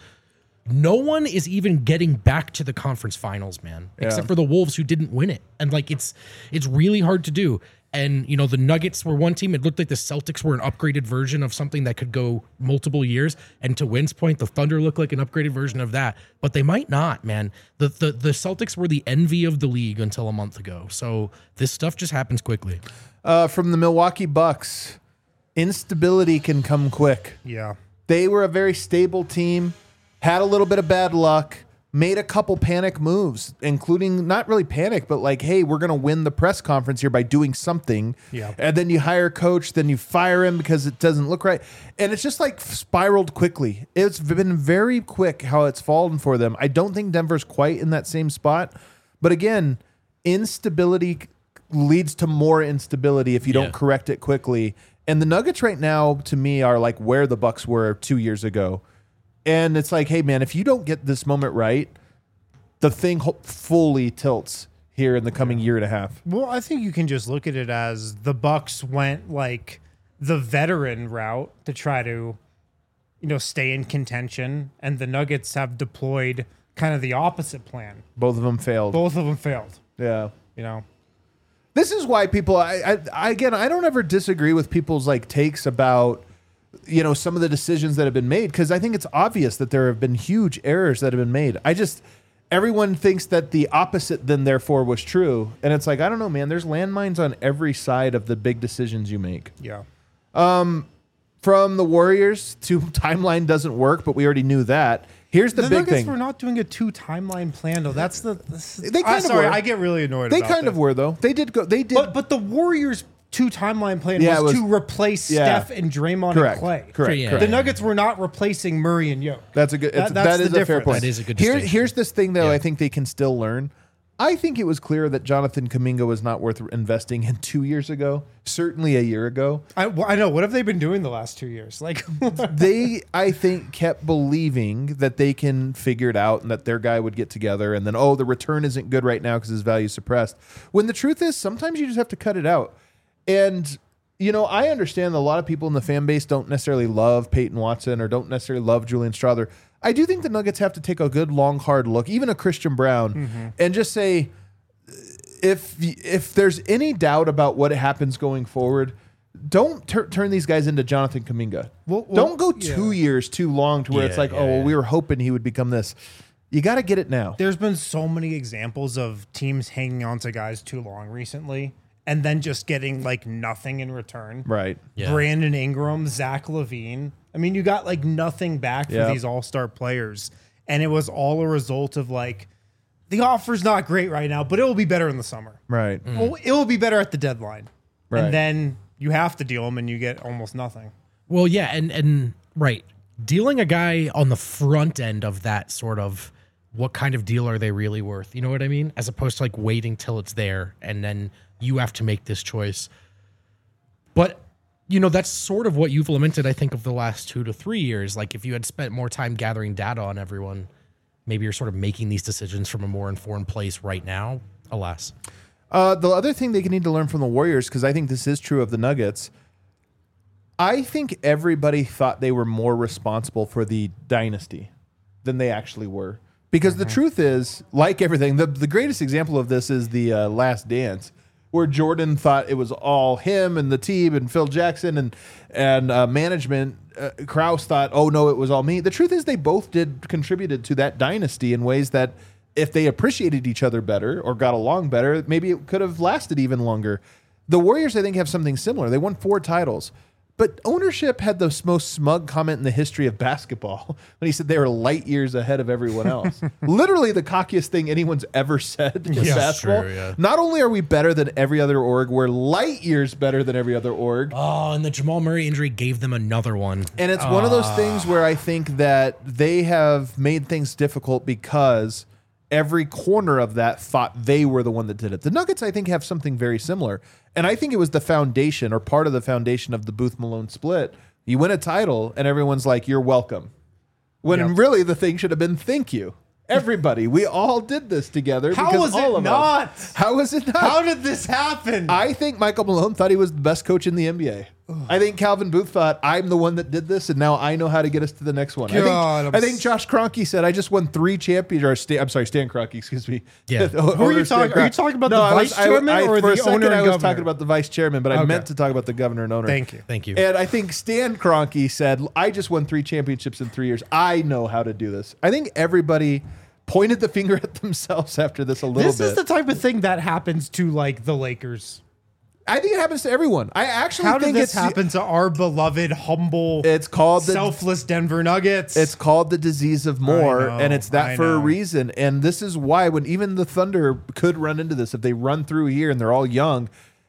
No one is even getting back to the conference finals, man, except for the Wolves who didn't win it. And like it's it's really hard to do. And you know, the Nuggets were one team. It looked like the Celtics were an upgraded version of something that could go multiple years. And to Wynn's point, the Thunder look like an upgraded version of that. But they might not, man. The the the Celtics were the envy of the league until a month ago. So this stuff just happens quickly. Uh, from the Milwaukee Bucks, instability can come quick. Yeah. They were a very stable team, had a little bit of bad luck, made a couple panic moves, including not really panic, but like, hey, we're going to win the press conference here by doing something. Yeah. And then you hire a coach, then you fire him because it doesn't look right. And it's just like spiraled quickly. It's been very quick how it's fallen for them. I don't think Denver's quite in that same spot. But again, instability leads to more instability if you Yeah. don't correct it quickly. And the Nuggets right now, to me, are like where the Bucks were two years ago. And it's like, hey, man, if you don't get this moment right, the thing ho- fully tilts here in the coming year and a half. Well, I think you can just look at it as the Bucks went like the veteran route to try to, you know, stay in contention, and the Nuggets have deployed kind of the opposite plan. Both of them failed. Both of them failed. Yeah. You know. This is why people, I, I, I again, I don't ever disagree with people's like takes about, you know, some of the decisions that have been made, because I think it's obvious that there have been huge errors that have been made. I just, everyone thinks that the opposite then therefore was true. And it's like, I don't know, man, there's landmines on every side of the big decisions you make. Yeah. From the Warriors to timeline doesn't work, but we already knew that. Here's the, The big Nuggets thing. were not doing a two timeline plan though. That's the. This, They kind I'm of sorry, were. I get really annoyed. They about kind of this. were though. They did go. They did. But but the Warriors' two timeline plan Yeah, was, it was- to replace yeah. Steph and Draymond correct. and Clay. Correct. Yeah. correct. The Nuggets were not replacing Murray and Yo. That's a good. That- It's, that's that the is a fair difference. point. That is a good Here, distinction. here's this thing though. Yeah. I think they can still learn. I think it was clear that Jonathan Kuminga was not worth investing in two years ago. Certainly a year ago. I, well, I know. What have they been doing the last two years? Like, They, I think, kept believing that they can figure it out and that their guy would get together. And then, oh, the return isn't good right now because his value is suppressed. When the truth is, sometimes you just have to cut it out. And you know, I understand that a lot of people in the fan base don't necessarily love Peyton Watson or don't necessarily love Julian Strawther. I do think the Nuggets have to take a good, long, hard look, even a Christian Brown, Mm-hmm. and just say, if if there's any doubt about what happens going forward, don't tur- turn these guys into Jonathan Kuminga. Well- well, don't go two yeah. years too long to where Yeah, it's like, yeah, oh, well, yeah. we were hoping he would become this. You got to get it now. There's been so many examples of teams hanging on to guys too long recently and then just getting like nothing in return. Right. Yeah. Brandon Ingram, Zach LaVine. I mean, you got like nothing back for Yep. these all-star players. And it was all a result of like, the offer's not great right now, but it will be better in the summer. Right. Well, it will be better at the deadline. Right. And then you have to deal them and you get almost nothing. Well, yeah, and and right, dealing a guy on the front end of that sort of what kind of deal are they really worth? You know what I mean? As opposed to like waiting till it's there and then you have to make this choice. But you know, that's sort of what you've lamented, I think, of the last two to three years. Like if you had spent more time gathering data on everyone, maybe you're sort of making these decisions from a more informed place right now. Alas. Uh, the other thing they need to learn from the Warriors, because I think this is true of the Nuggets, I think everybody thought they were more responsible for the dynasty than they actually were. Because the truth is, like everything, the, the greatest example of this is the uh, Last Dance, where Jordan thought it was all him and the team and Phil Jackson and and uh, management. Uh, Krause thought, oh no, it was all me. The truth is, they both did contributed to that dynasty in ways that, if they appreciated each other better or got along better, maybe it could have lasted even longer. The Warriors, I think, have something similar. They won four titles. But ownership had the most smug comment in the history of basketball when he said they were light years ahead of everyone else. Literally the cockiest thing anyone's ever said in Yeah, basketball. true, yeah. Not only are we better than every other org, we're light years better than every other org. Oh, and the Jamal Murray injury gave them another one. And it's one of those things where I think that they have made things difficult because every corner of that thought they were the one that did it. The Nuggets, I think, have something very similar. And I think it was the foundation or part of the foundation of the Booth Malone split. You win a title and everyone's like, you're welcome. When Yep. really the thing should have been thank you. Everybody, we all did this together. How because was all it of not? Us. How was it not? How did this happen? I think Michael Malone thought he was the best coach in the N B A. I think Calvin Booth thought, I'm the one that did this, and now I know how to get us to the next one. God, I I'm think, I think s- Josh Kroenke said, I just won three champions. Or Stan, I'm sorry, Stan Kroenke, excuse me. Yeah. The Who are you owner, Stan talking- are you Kroenke. talking about No, the I was- vice I- chairman I- or for the a second, owner and I was governor? talking about the vice chairman, but I Okay. meant to talk about the governor and owner. Thank you. Thank you. And I think Stan Kroenke said, I just won three championships in three years. I know how to do this. I think everybody pointed the finger at themselves after this a little This bit. is the type of thing that happens to like the Lakers. I think it happens to everyone. I actually How did think this it's happen to our beloved, humble, It's called the selfless Denver Nuggets? It's called the disease of more, I know, and it's that I for a know. reason. And this is why, when even the Thunder could run into this, if they run through here and they're all young,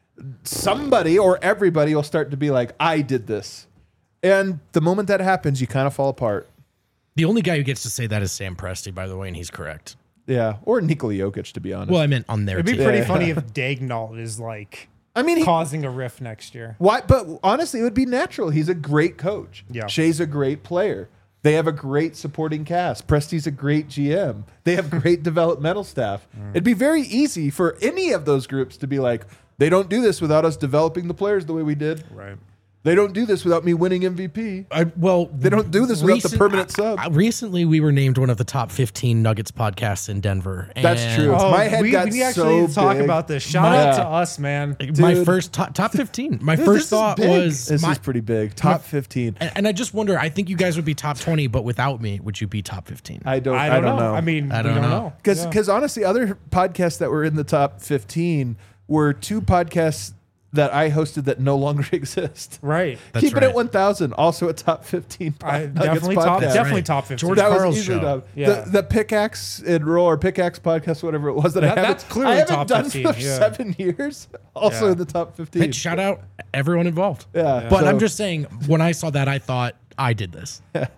somebody or everybody will start to be like, I did this. And the moment that happens, you kind of fall apart. The only guy who gets to say that is Sam Presti, by the way, and he's correct. Yeah. Or Nikola Jokic, to be honest. Well, I meant on their It'd be team. pretty Yeah. funny if Dagnall is like I mean, he, causing a rift next year. why? But honestly, it would be natural. He's a great coach. Yeah. Shea's a great player. They have a great supporting cast. Presti's a great G M. They have great developmental staff. It'd be very easy for any of those groups to be like, they don't do this without us developing the players the way we did. Right. They don't do this without me winning M V P. I, well, They don't do this without the permanent sub. uh, recently, we were named one of the top fifteen Nuggets podcasts in Denver. That's and true. Oh, My head we, got we actually so need to talk big. about this. Shout My- out to us, man. My Dude. first top, top fifteen. My Dude, first this is thought big. was This my, is pretty big. Top fifteen. and, and I just wonder. I think you guys would be top twenty, but without me, would you be top fifteen? I don't. I don't, know. I mean, I we don't don't know. know. Because Yeah. because honestly, other podcasts that were in the top fifteen were two podcasts that I hosted that no longer exist. Right. That's Keep it right. at one thousand. Also a top fifteen. I Nuggets definitely top, podcast. definitely right. top fifteen. George That was Carl's easily show. done. Yeah. The, the pickaxe and roll or pickaxe podcast, whatever it was that, I That- haven't, that's clearly I haven't top done fifteen, for yeah. seven years. Also Yeah. in the top fifteen. Hey, shout out everyone involved. Yeah, but so- I'm just saying, when I saw that, I thought I did this.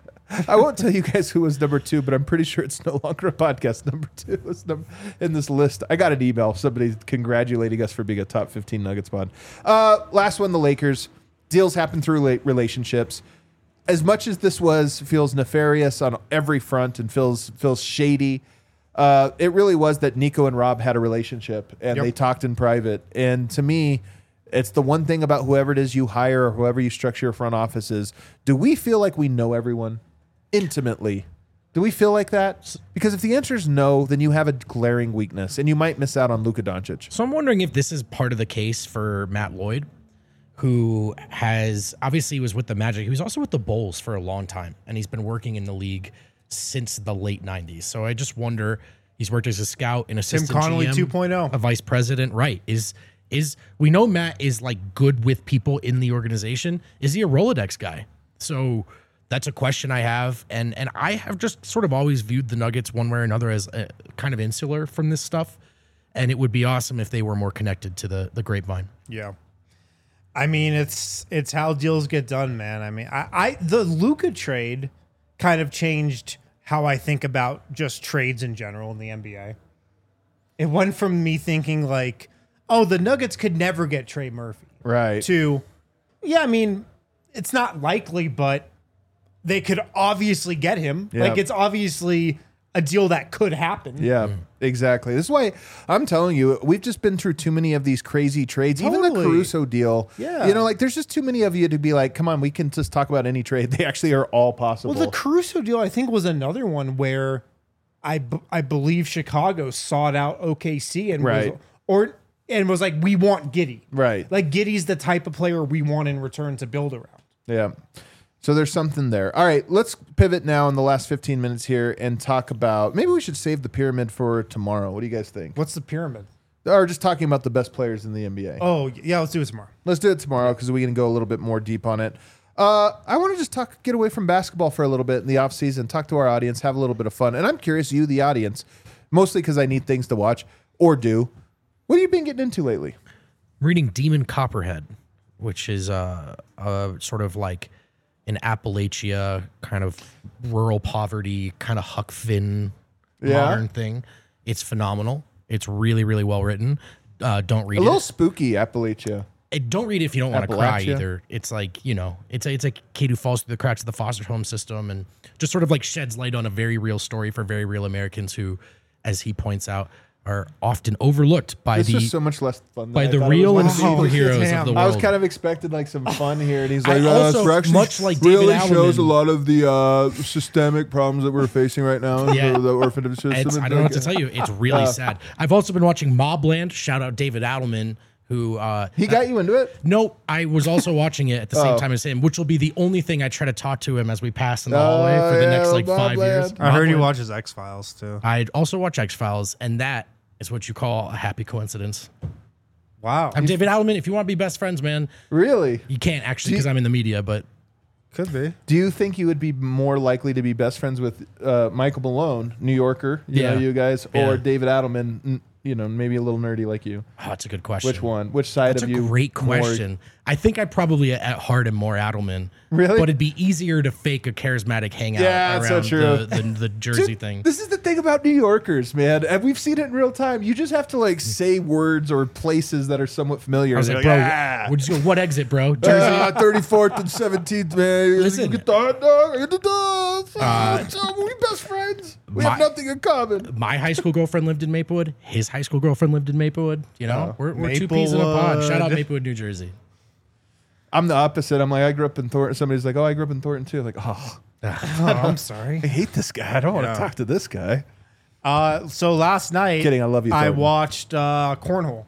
I won't tell you guys who was number two, but I'm pretty sure it's no longer a podcast. Number two was number in this list. I got an email, somebody congratulating us for being a top fifteen Nuggets pod. Uh, last one, the Lakers. Deals happen through la- relationships. As much as this was feels nefarious on every front and feels feels shady, uh, it really was that Nico and Rob had a relationship and Yep. they talked in private. And to me, it's the one thing about whoever it is you hire or whoever you structure your front office is, do we feel like we know everyone intimately? Do we feel like that? Because if the answer is no, then you have a glaring weakness and you might miss out on Luka Doncic. So I'm wondering if this is part of the case for Matt Lloyd, who has obviously was with the Magic. He was also with the Bulls for a long time, and he's been working in the league since the late nineties. So I just wonder, he's worked as a scout, an assistant Connolly G M, two point oh. a vice president, right? Is is we know Matt is like good with people in the organization. Is he a Rolodex guy? So that's a question I have, and and I have just sort of always viewed the Nuggets one way or another as a, kind of insular from this stuff, and it would be awesome if they were more connected to the the grapevine. Yeah. I mean, it's it's how deals get done, man. I mean, I, I the Luka trade kind of changed how I think about just trades in general in the N B A. It went from me thinking like, oh, the Nuggets could never get Trey Murphy, Right. to, yeah, I mean, it's not likely, but they could obviously get him. Yeah. Like, it's obviously a deal that could happen. Yeah, exactly. This is why I'm telling you, we've just been through too many of these crazy trades. Even the Totally. Caruso deal. Yeah. You know, like there's just too many of you to be like, come on, we can just talk about any trade. They actually are all possible. Well, the Caruso deal, I think, was another one where I, b- I believe Chicago sought out O K C and Right. was, or and was like, we want Giddey. Right. Like Giddey's the type of player we want in return to build around. Yeah. So there's something there. All right, let's pivot now in the last fifteen minutes here and talk about, maybe we should save the pyramid for tomorrow. What do you guys think? What's the pyramid? Or just talking about the best players in the N B A. Oh, yeah, let's do it tomorrow. Let's do it tomorrow because we can go a little bit more deep on it. Uh, I want to just talk, get away from basketball for a little bit in the offseason, talk to our audience, have a little bit of fun. And I'm curious, you, the audience, mostly because I need things to watch or do. What have you been getting into lately? Reading Demon Copperhead, which is uh, a sort of like an Appalachia kind of rural poverty kind of Huck Finn Yeah. modern thing. It's phenomenal. It's really, really well written. Uh, don't read A it. little spooky, Appalachia. Uh, Don't read it if you don't want to cry Appalachia. either. It's like, you know, it's a, it's a kid who falls through the cracks of the foster home system and just sort of like sheds light on a very real story for very real Americans who, as he points out, are often overlooked by This the was so much less fun than by I the thought it real was and gonna be. superheroes Damn. of the world. I was kind of expecting like some fun here, and he's I like, "Uh, also, this actually much like David really Allen shows a and- lot of the uh, systemic problems that we're facing right now in Yeah. the, the orphanage system." It's, I and don't know what like, to tell you. It's really sad. I've also been watching Mobland. Shout out David Adelman, who uh, He got you into it? no, I was also watching it at the same Oh. time as him, which will be the only thing I try to talk to him as we pass in the hallway Oh, for the yeah, next like five Mobland. years. I heard he Mobland. watches X Files too. I'd also watch X Files, and that is what you call a happy coincidence. Wow, I'm David Adelman. If you want to be best friends, man, Really? you can't actually because I'm in the media, but could be. Do you think you would be more likely to be best friends with uh, Michael Malone, New Yorker, you Yeah. know, you guys, Yeah. or David Adelman, n- you know, maybe a little nerdy like you? oh, that's a good question. Which one? Which side That's of a you? great more- question. I think I probably at heart am more Adelman. Really? But it'd be easier to fake a charismatic hangout Yeah, that's so around true. the, the, the Jersey Dude, thing. This is the thing about New Yorkers, man. And we've seen it in real time. You just have to like say words or places that are somewhat familiar. I was And like, they're bro, "Ah." we'd just go, what exit, bro? Jersey? Ah, thirty-fourth and seventeenth, man. Listen. You get the hot dog, I get the dog. Uh, so we best friends. We my- have nothing in common. My high school girlfriend lived in Maplewood. His high school girlfriend lived in Maplewood. You know, we're, we're two peas in a pod. Shout out Maplewood. Maplewood, New Jersey. I'm the opposite. I'm like, I grew up in Thornton. Somebody's like, oh, I grew up in Thornton too. Like, oh, Oh, I'm sorry. I hate this guy. I don't want Yeah. to talk to this guy. Uh, so last night, Kidding, I love you, I Thornton. watched uh, cornhole,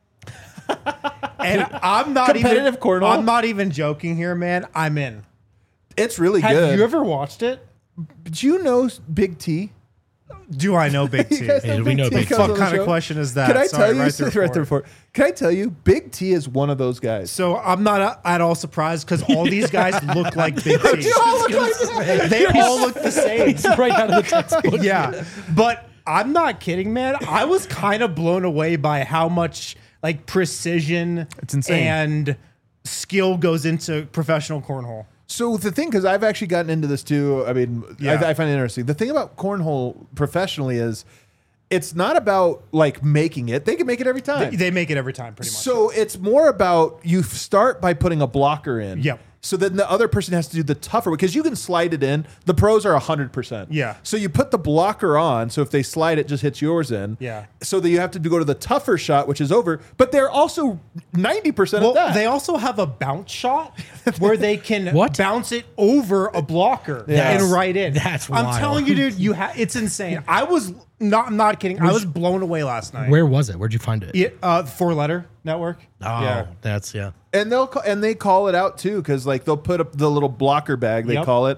and I'm not Competitive even cornhole? I'm not even joking here, man. I'm in. It's really Have good. you ever watched it? Do you know Big T? Do I know Big T? You guys Yeah, we know T Big T. comes What on the kind of show? question is that? Can I Sorry, tell you? right there right there for it. for. Can I tell you? Big T is one of those guys. So I'm not uh, at all surprised because all these guys look like Big T. You all look like- They all look the same. It's right out of the textbook. Yeah, but I'm not kidding, man. I was kind of blown away by how much like precision It's insane. and skill goes into professional cornhole. So the thing, because I've actually gotten into this too. I mean, Yeah. I, I find it interesting. The thing about cornhole professionally is, it's not about like making it. They can make it every time. They, they make it every time, pretty much. So it's more about you start by putting a blocker in. Yep. So then the other person has to do the tougher because you can slide it in. The pros are one hundred percent. Yeah. So you put the blocker on. So if they slide, it just hits yours in. Yeah. So that you have to go to the tougher shot, which is over. But they're also ninety percent well, of that. they also have a bounce shot where they can What? bounce it over a blocker Yes. and right in. That's I'm wild. telling you, dude. You ha- it's insane. I was not. I'm not kidding. I was blown away last night. Where was it? Where'd you find it? Yeah, uh, four letter network. Oh, Yeah. that's, yeah. And they'll ca- and they call it out too because like they'll put up the little blocker bag they Yep. call it,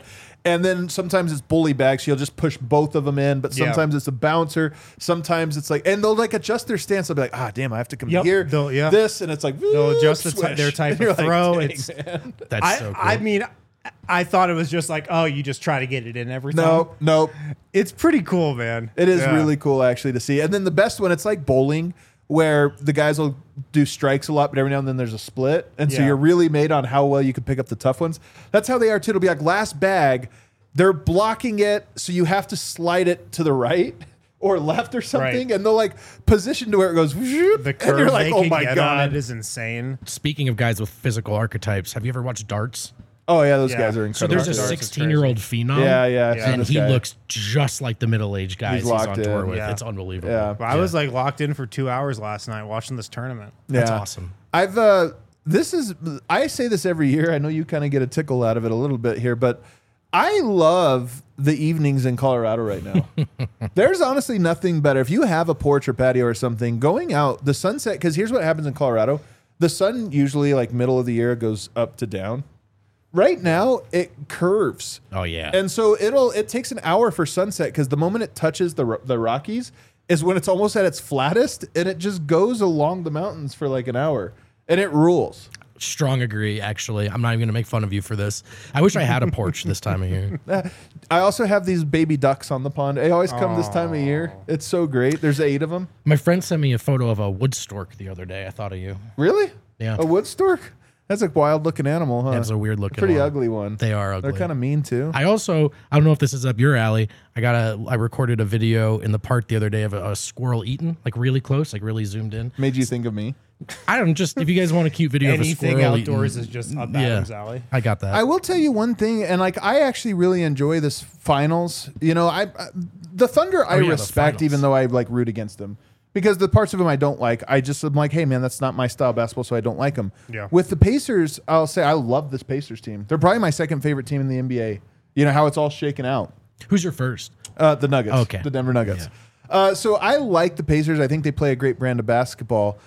And then sometimes it's bully bag, so you'll just push both of them in. But Yeah. sometimes it's a bouncer. Sometimes it's like, and they'll like adjust their stance. They'll be like, ah, damn, I have to come Yep. here. They'll- yeah. This, and it's like, They'll adjust the swish. ty- their type And you're of throw. Like, It's That's I, so cool. I mean, I thought it was just like, oh, you just try to get it in every time. no, no. It's pretty cool, man. It is Yeah. really cool actually to see. And then the best one, it's like bowling, where the guys will do strikes a lot, but every now and then there's a split. And so Yeah. you're really made on how well you can pick up the tough ones. That's how they are too. It'll be like last bag, they're blocking it, so you have to slide it to the right or left or something, Right. and they'll like position to where it goes. The and curve you're like, they oh can my get god. on it is insane. Speaking of guys with physical archetypes, have you ever watched darts? Oh yeah, those Yeah. guys are So incredible. there's a Darts is sixteen-year-old phenom. yeah, yeah, I've seen And this he guy. looks just like the middle-aged guys He's he's, locked on tour in. with. Yeah. It's unbelievable. Yeah. But I was like locked in for two hours last night watching this tournament. That's Yeah. awesome. I've uh this is I say this every year. I know you kind of get a tickle out of it a little bit here, but I love the evenings in Colorado right now. There's honestly nothing better. If you have a porch or patio or something, going out, the sunset, because here's what happens in Colorado. The sun usually like middle of the year goes up to down. Right now it curves. Oh, yeah. And so it'll it takes an hour for sunset because the moment it touches the ro- the Rockies is when it's almost at its flattest, and it just goes along the mountains for like an hour, and it rules. Strong agree, actually. I'm not even going to make fun of you for this. I wish I had a porch this time of year. I also have these baby ducks on the pond. They always come this time of year. It's so great. There's eight of them. My friend sent me a photo of a wood stork the other day. I thought of you. Really? Yeah. A wood stork? That's a wild looking animal, huh? Yeah, it's a weird looking Pretty one. ugly one. They are ugly. They're kind of mean too. I also, I don't know if this is up your alley. I got a, I recorded a video in the park the other day of a, a squirrel eaten, like really close, like really zoomed in. Made you think of me. I don't just, if you guys want a cute video Anything of a squirrel outdoors eating, is just up yeah, Adam's alley. I got that. I will tell you one thing, and like I actually really enjoy this finals. You know, I, I the Thunder I Oh, yeah, the respect, finals. even though I like root against them, because the parts of them I don't like, I just am like, hey man, that's not my style of basketball, so I don't like them. Yeah. With the Pacers, I'll say I love this Pacers team. They're probably my second favorite team in the N B A. You know how it's all shaken out. Who's your first? Uh, the Nuggets. Okay. The Denver Nuggets. Uh, so I like the Pacers. I think they play a great brand of basketball.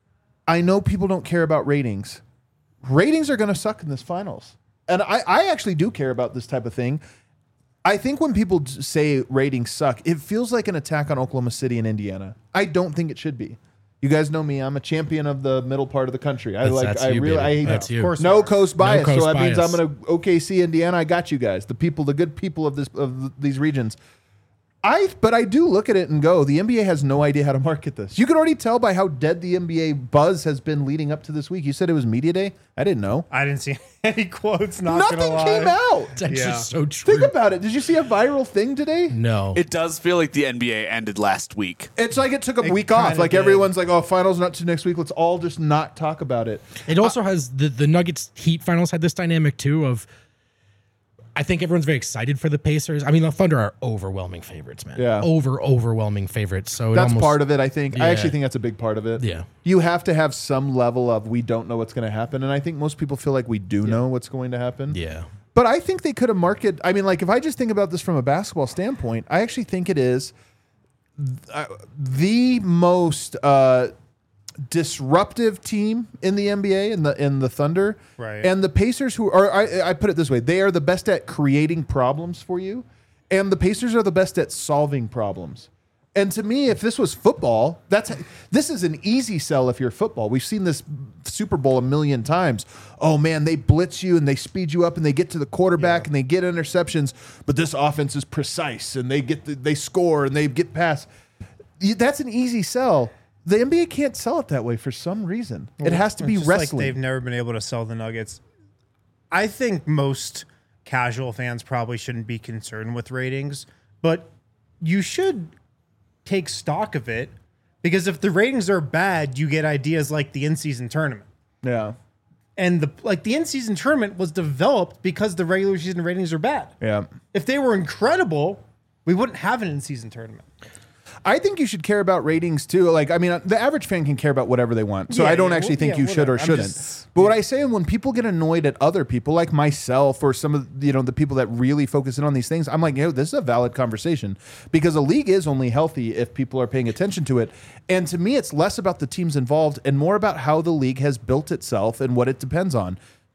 I know people don't care about ratings. Ratings are going to suck in this finals. And I, I actually do care about this type of thing. I think when people d- say ratings suck, it feels like an attack on Oklahoma City and Indiana. I don't think it should be. You guys know me. I'm a champion of the middle part of the country. I That's- like. that's I you, really. baby. I That's you. Of course. no coast bias. coast so that means I'm bias. going to O K C, Indiana. I got you guys. The people, the good people of this of these regions. I but I do look at it and go, the N B A has no idea how to market this. You can already tell by how dead the N B A buzz has been leading up to this week. You said it was media day. I didn't know. I didn't see any quotes. Not Nothing gonna lie. came out. It's actually Yeah. so true. Think about it. Did you see a viral thing today? no. It does feel like the N B A ended last week. It's like it took a It week off. kinda Like did. everyone's like, "Oh, finals not to next week. Let's all just not talk about it." It also has the the Nuggets Heat finals had this dynamic too of I think everyone's very excited for the Pacers. I mean, the Thunder are overwhelming favorites, man. Yeah. Over overwhelming favorites. So it That's almost, part of it, I think. I Yeah. actually think that's a big part of it. Yeah. You have to have some level of we don't know what's going to happen, and I think most people feel like we do know what's going to happen. Yeah. But I think they could have marketed. I mean, like if I just think about this from a basketball standpoint, I actually think it is uh, the most uh, disruptive team in the N B A in the in the Thunder, Right. And the Pacers, who are I, I put it this way, they are the best at creating problems for you, and the Pacers are the best at solving problems. And to me, if this was football, that's this is an easy sell if you're football. We've seen this Super Bowl a million times. Oh man, they blitz you and they speed you up and they get to the quarterback and they get interceptions, but this offense is precise and they get the, they score and they get past. You- That's an easy sell. The N B A can't sell it that way for some reason. It has to be It's just like wrestling. they've never been able to sell the Nuggets. I think most casual fans probably shouldn't be concerned with ratings, but you should take stock of it because if the ratings are bad, you get ideas like the in-season tournament. yeah, And the like the in-season tournament was developed because the regular season ratings are bad. yeah. If they were incredible, we wouldn't have an in-season tournament. I think you should care about ratings too. Like, I mean, the average fan can care about whatever they want. So Yeah, I don't yeah, actually well, think yeah, you should or whatever. I'm shouldn't. just- but what I say, when people get annoyed at other people, like myself or some of you know the people that really focus in on these things, I'm like, you know, this is a valid conversation because a league is only healthy if people are paying attention to it. And to me, it's less about the teams involved and more about how the league has built itself and what it depends on.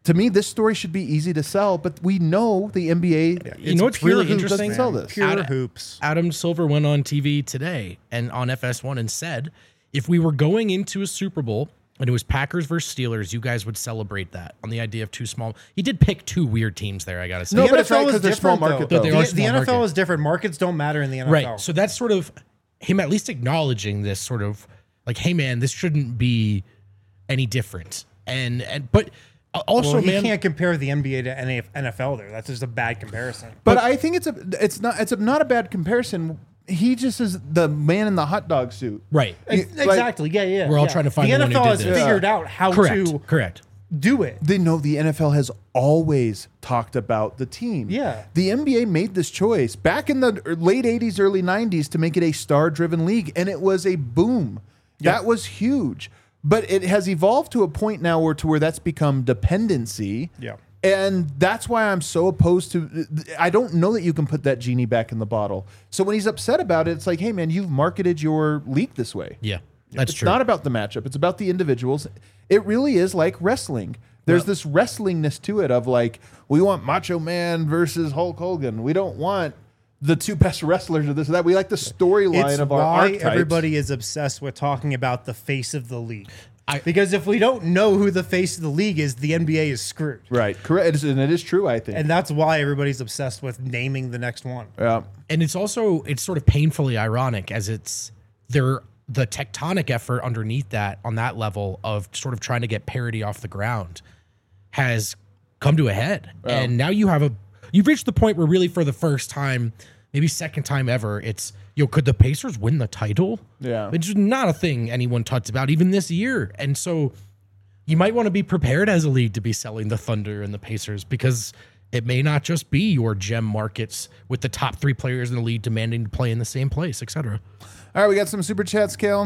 to me, this story should be easy to sell, but we know the N B A. You know what's really hoops interesting? doesn't sell this. Pure Ad- hoops. Adam Silver went on T V today and on F S one and said, if we were going into a Super Bowl and it was Packers versus Steelers, you guys would celebrate that on the idea of two small. He did pick two weird teams there, I got to say. No, The but it's N F L right is 'cause they're small different, market, though. though. They The, are the small N F L market. is different. Markets don't matter in the N F L. Right. So that's sort of him at least acknowledging this sort of like, hey man, this shouldn't be any different. And and but also, well, he man, can't compare the N B A to N F L there. That's just a bad comparison. But I think it's a it's not it's a, not a bad comparison. He just is the man in the hot dog suit. right. Ex- like, exactly. Yeah, yeah. we're all yeah. trying to find the the one N F L who has did this. figured out how Correct. to Correct. do it. They know the N F L has always talked about the team. Yeah. The N B A made this choice back in the late eighties, early nineties to make it a star-driven league, and it was a boom. Yeah. That was huge. But it has evolved to a point now where to where that's become dependency. Yeah. And that's why I'm so opposed to. I don't know that you can put that genie back in the bottle. So when he's upset about it, it's like, hey man, you've marketed your league this way. Yeah. That's It's true. not about the matchup. It's about the individuals. It really is like wrestling. There's Yep. this wrestlingness to it of like, we want Macho Man versus Hulk Hogan. We don't want the two best wrestlers or this or that. We like the storyline It's of our why archetypes. everybody is obsessed with talking about the face of the league. I- because if we don't know who the face of the league is, the N B A is screwed. Right. Correct. It is- And it is true, I think. And that's why everybody's obsessed with naming the next one. yeah. and it's also it's sort of painfully ironic as it's there the tectonic effort underneath that on that level of sort of trying to get parity off the ground has come to a head. And now you have a you've reached the point where really for the first time, maybe second time ever, it's yo, could the Pacers win the title? Yeah. Which is not a thing anyone talks about even this year. And so you might want to be prepared as a league to be selling the Thunder and the Pacers because it may not just be your gem markets with the top three players in the league demanding to play in the same place, et cetera. All right, we got some super chats, Kale.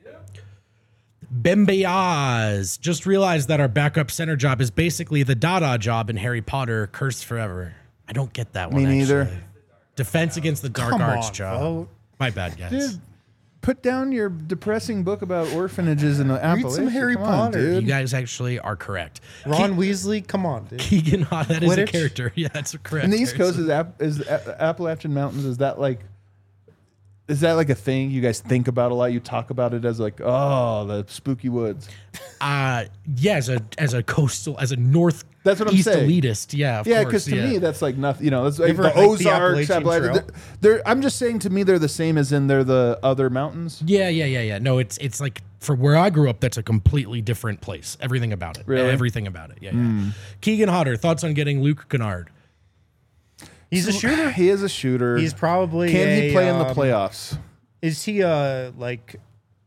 Bembeaz just realized that our backup center job is basically the Dada job in Harry Potter, Cursed Forever. I don't get that one. Me neither. actually. Defense against the Dark Come Arts on, job. vote. My bad, guys. Dude, put down your depressing book about orphanages in Appalachia. some Harry Come on, Potter. You dude. guys actually are correct. Ron Weasley, come on, dude. Keegan, that is a Quidditch? character. Yeah, that's correct. In the East Coast, is, App, is A- Appalachian Mountains, is that like, is that like a thing you guys think about a lot? You talk about it as like, oh, the spooky woods. Uh, yeah, as a as a coastal, as a north That's what I'm east saying. elitist. Yeah, of Yeah, course, because to yeah. me, that's like nothing. You know, that's like ever the hiked the Ozarks. Appalachian Appalachian, Trail? they're, they're- I'm just saying, to me, they're the same as in they're the other mountains. Yeah, yeah, yeah, yeah. No, it's it's like for where I grew up, that's a completely different place. Everything about it. Really? Everything about it. Yeah, yeah. Keegan Hodder, thoughts on getting Luke Kennard? He's a shooter. He is a shooter. He's probably Can he a, play in the um, playoffs? Is he a like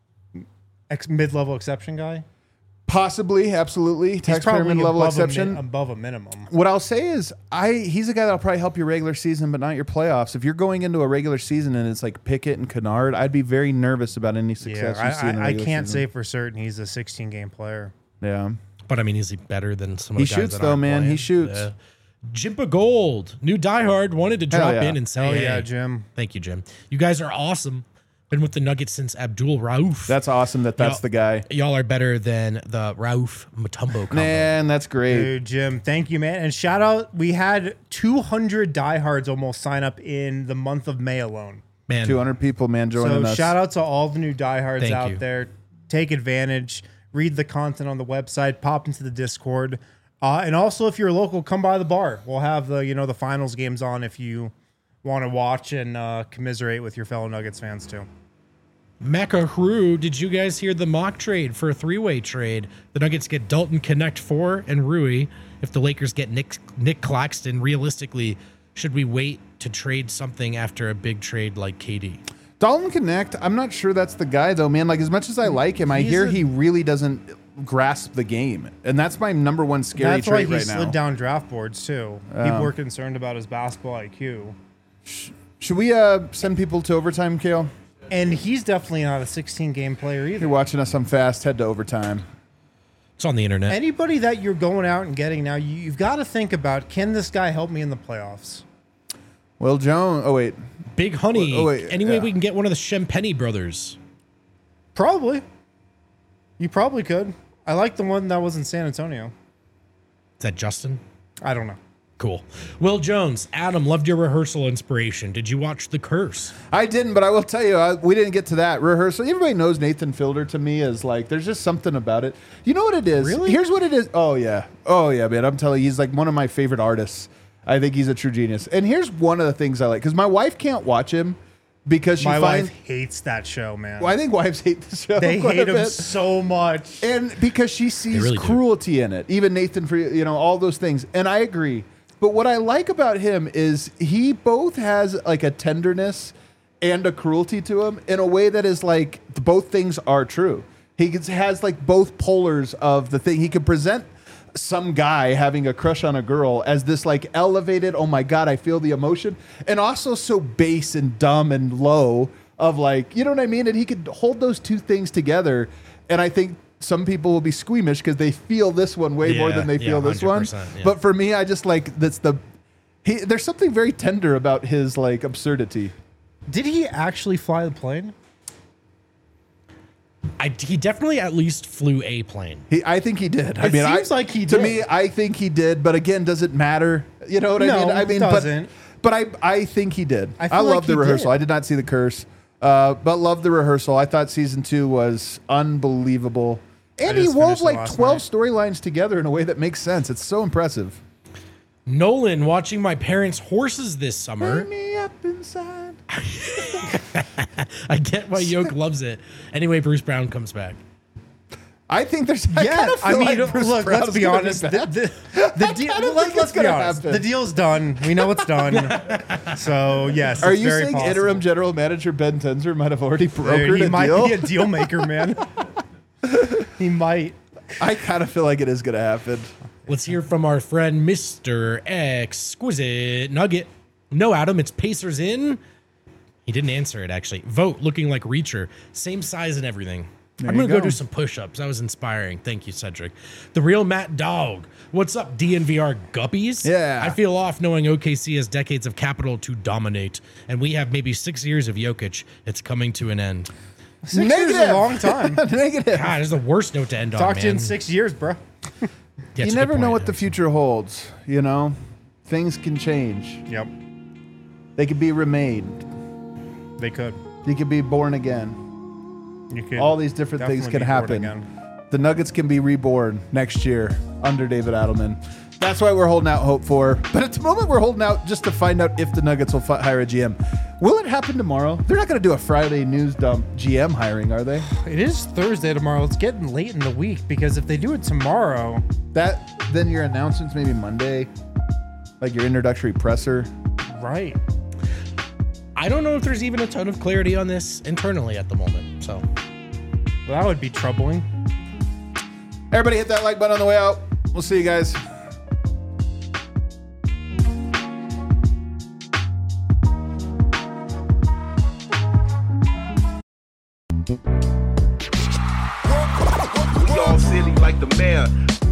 ex mid-level exception guy? Possibly, absolutely. He's Taxpayer probably mid-level above exception. A mi- above a minimum. What I'll say is, I he's a guy that'll probably help your regular season, but not your playoffs. If you're going into a regular season and it's like Pickett and Kennard, I'd be very nervous about any Yeah, success you see I, in the I, I regular can't season. say for certain he's a sixteen game player. Yeah. But I mean, is he better than some of He the guys shoots, that though, aren't man. He playing? shoots. Yeah. Jimpa Gold, new diehard, wanted to drop yeah. in and say, Oh hey, yeah, Jim. thank you, Jim. You guys are awesome. Been with the Nuggets since Abdul Rauf. That's awesome that that's Y'all- the guy. Y'all are better than the Rauf Mutombo combo. Man, that's great. Dude, Jim, thank you, man. And shout out, we had two hundred diehards almost sign up in the month of May alone. Man, two hundred people, man, joining So us. shout out to all the new diehards Thank out you. there. Take advantage. Read the content on the website. Pop into the Discord. Uh, and also, if you're local, come by the bar. We'll have the you know the finals games on if you want to watch and uh, commiserate with your fellow Nuggets fans too. Macaru, did you guys hear the mock trade for a three-way trade? The Nuggets get Dalton Connect four and Rui. If the Lakers get Nick Nick Claxton, realistically, should we wait to trade something after a big trade like K D? Dalton Connect, I'm not sure that's the guy, though, man. Like, as much as I like him, I He's hear a- he really doesn't grasp the game. And that's my number one scary That's why trait he right slid now. down draft boards too. People were concerned about his basketball I Q. Should we uh, send people to overtime, Kale? And he's definitely not a sixteen game player If either. you're watching us on Fast, head to overtime. It's on the internet. Anybody that you're going out and getting now, you, you've got to think about, can this guy help me in the playoffs? Will Jones. Oh, wait. Big Honey. Oh, wait, Any way yeah. we can get one of the Shampenny brothers? Probably. You probably could. I like the one that was in San Antonio. Is that Justin? I don't know. Cool. Will Jones, Adam, loved your rehearsal inspiration. Did you watch The Curse? I didn't, but I will tell you, I, we didn't get to that rehearsal. Everybody knows Nathan Fielder to me is like, there's just something about it. You know what it is? Really? Here's what it is. Oh, yeah. Oh, yeah, man. I'm telling you, he's like one of my favorite artists. I think he's a true genius. And here's one of the things I like, because my wife can't watch him because she My finds. wife hates that show, man. Well, I think wives hate the show. They quite hate a him bit. so much. And because she sees really do. cruelty in it, even Nathan, for you know, all those things. And I agree. But what I like about him is he both has like a tenderness and a cruelty to him in a way that is like both things are true. He gets- has like both polars of the thing. He can present some guy having a crush on a girl as this like elevated, oh my God, I feel the emotion, and also so base and dumb and low of like, you know what I mean? And he could hold those two things together. And I think some people will be squeamish because they feel this one way more Yeah, than they yeah, feel this one. one hundred percent, yeah. But for me, I just like that's the he. There's something very tender about his like absurdity. Did he actually fly the plane? I, he definitely at least flew a plane. He, I think he did. I It mean, seems I, like he To did. me, I think he did. But again, does it matter? You know what I No, mean? I it mean, doesn't. But, but I, I think he did. I I, feel love like the he rehearsal. did. I did not see The Curse, uh, but love the rehearsal. I thought season two was unbelievable, and he just wove finished it like last twelve night. storylines together in a way that makes sense. It's so impressive. Nolan, watching my parents' horses this summer. Turn me up inside. I get why Yoke loves it. Anyway, Bruce Brown comes back. I think there's. I Yeah, kinda I feel mean, like Bruce look, Brown's let's be gonna honest. The, back. the, the deal, kinda let, think let's it's be gonna honest. happen. The deal's done. We know it's done. So, yes, Are it's you very saying possible. interim general manager Ben Tenzer might have already Dude, brokered he a might deal? be a deal maker, man. He might. I kind of feel like it is going to happen. Let's hear from our friend Mister Exquisite Nugget. No, Adam, it's Pacers in. He didn't answer it, actually. Vote looking like Reacher. Same size and everything. There I'm you going to go go. do some push-ups. That was inspiring. Thank you, Cedric. The real Matt Dog. What's up, D N V R guppies? Yeah. I feel off knowing O K C has decades of capital to dominate, and we have maybe six years of Jokic. It's coming to an end. Six years is a long time. Negative. God, this is the worst note to end on, Talked to you man. in six years, bro. Yeah, You it's a never good know point. what the future holds, you know? Things can change. Yep, They could be remade. they could. They could be born again. You could. All these different things definitely can be bored happen. again. The Nuggets can be reborn next year under David Adelman. That's why we're holding out hope for. But at the moment, we're holding out just to find out if the Nuggets will fi- hire a G M. Will it happen tomorrow? They're not going to do a Friday news dump G M hiring, are they? It is Thursday tomorrow. It's getting late in the week because if they do it tomorrow, That then your announcements maybe Monday, like your introductory presser. right? I don't know if there's even a ton of clarity on this internally at the moment. So Well, that would be troubling. Everybody hit that like button on the way out. We'll see you guys. We all silly like the mayor.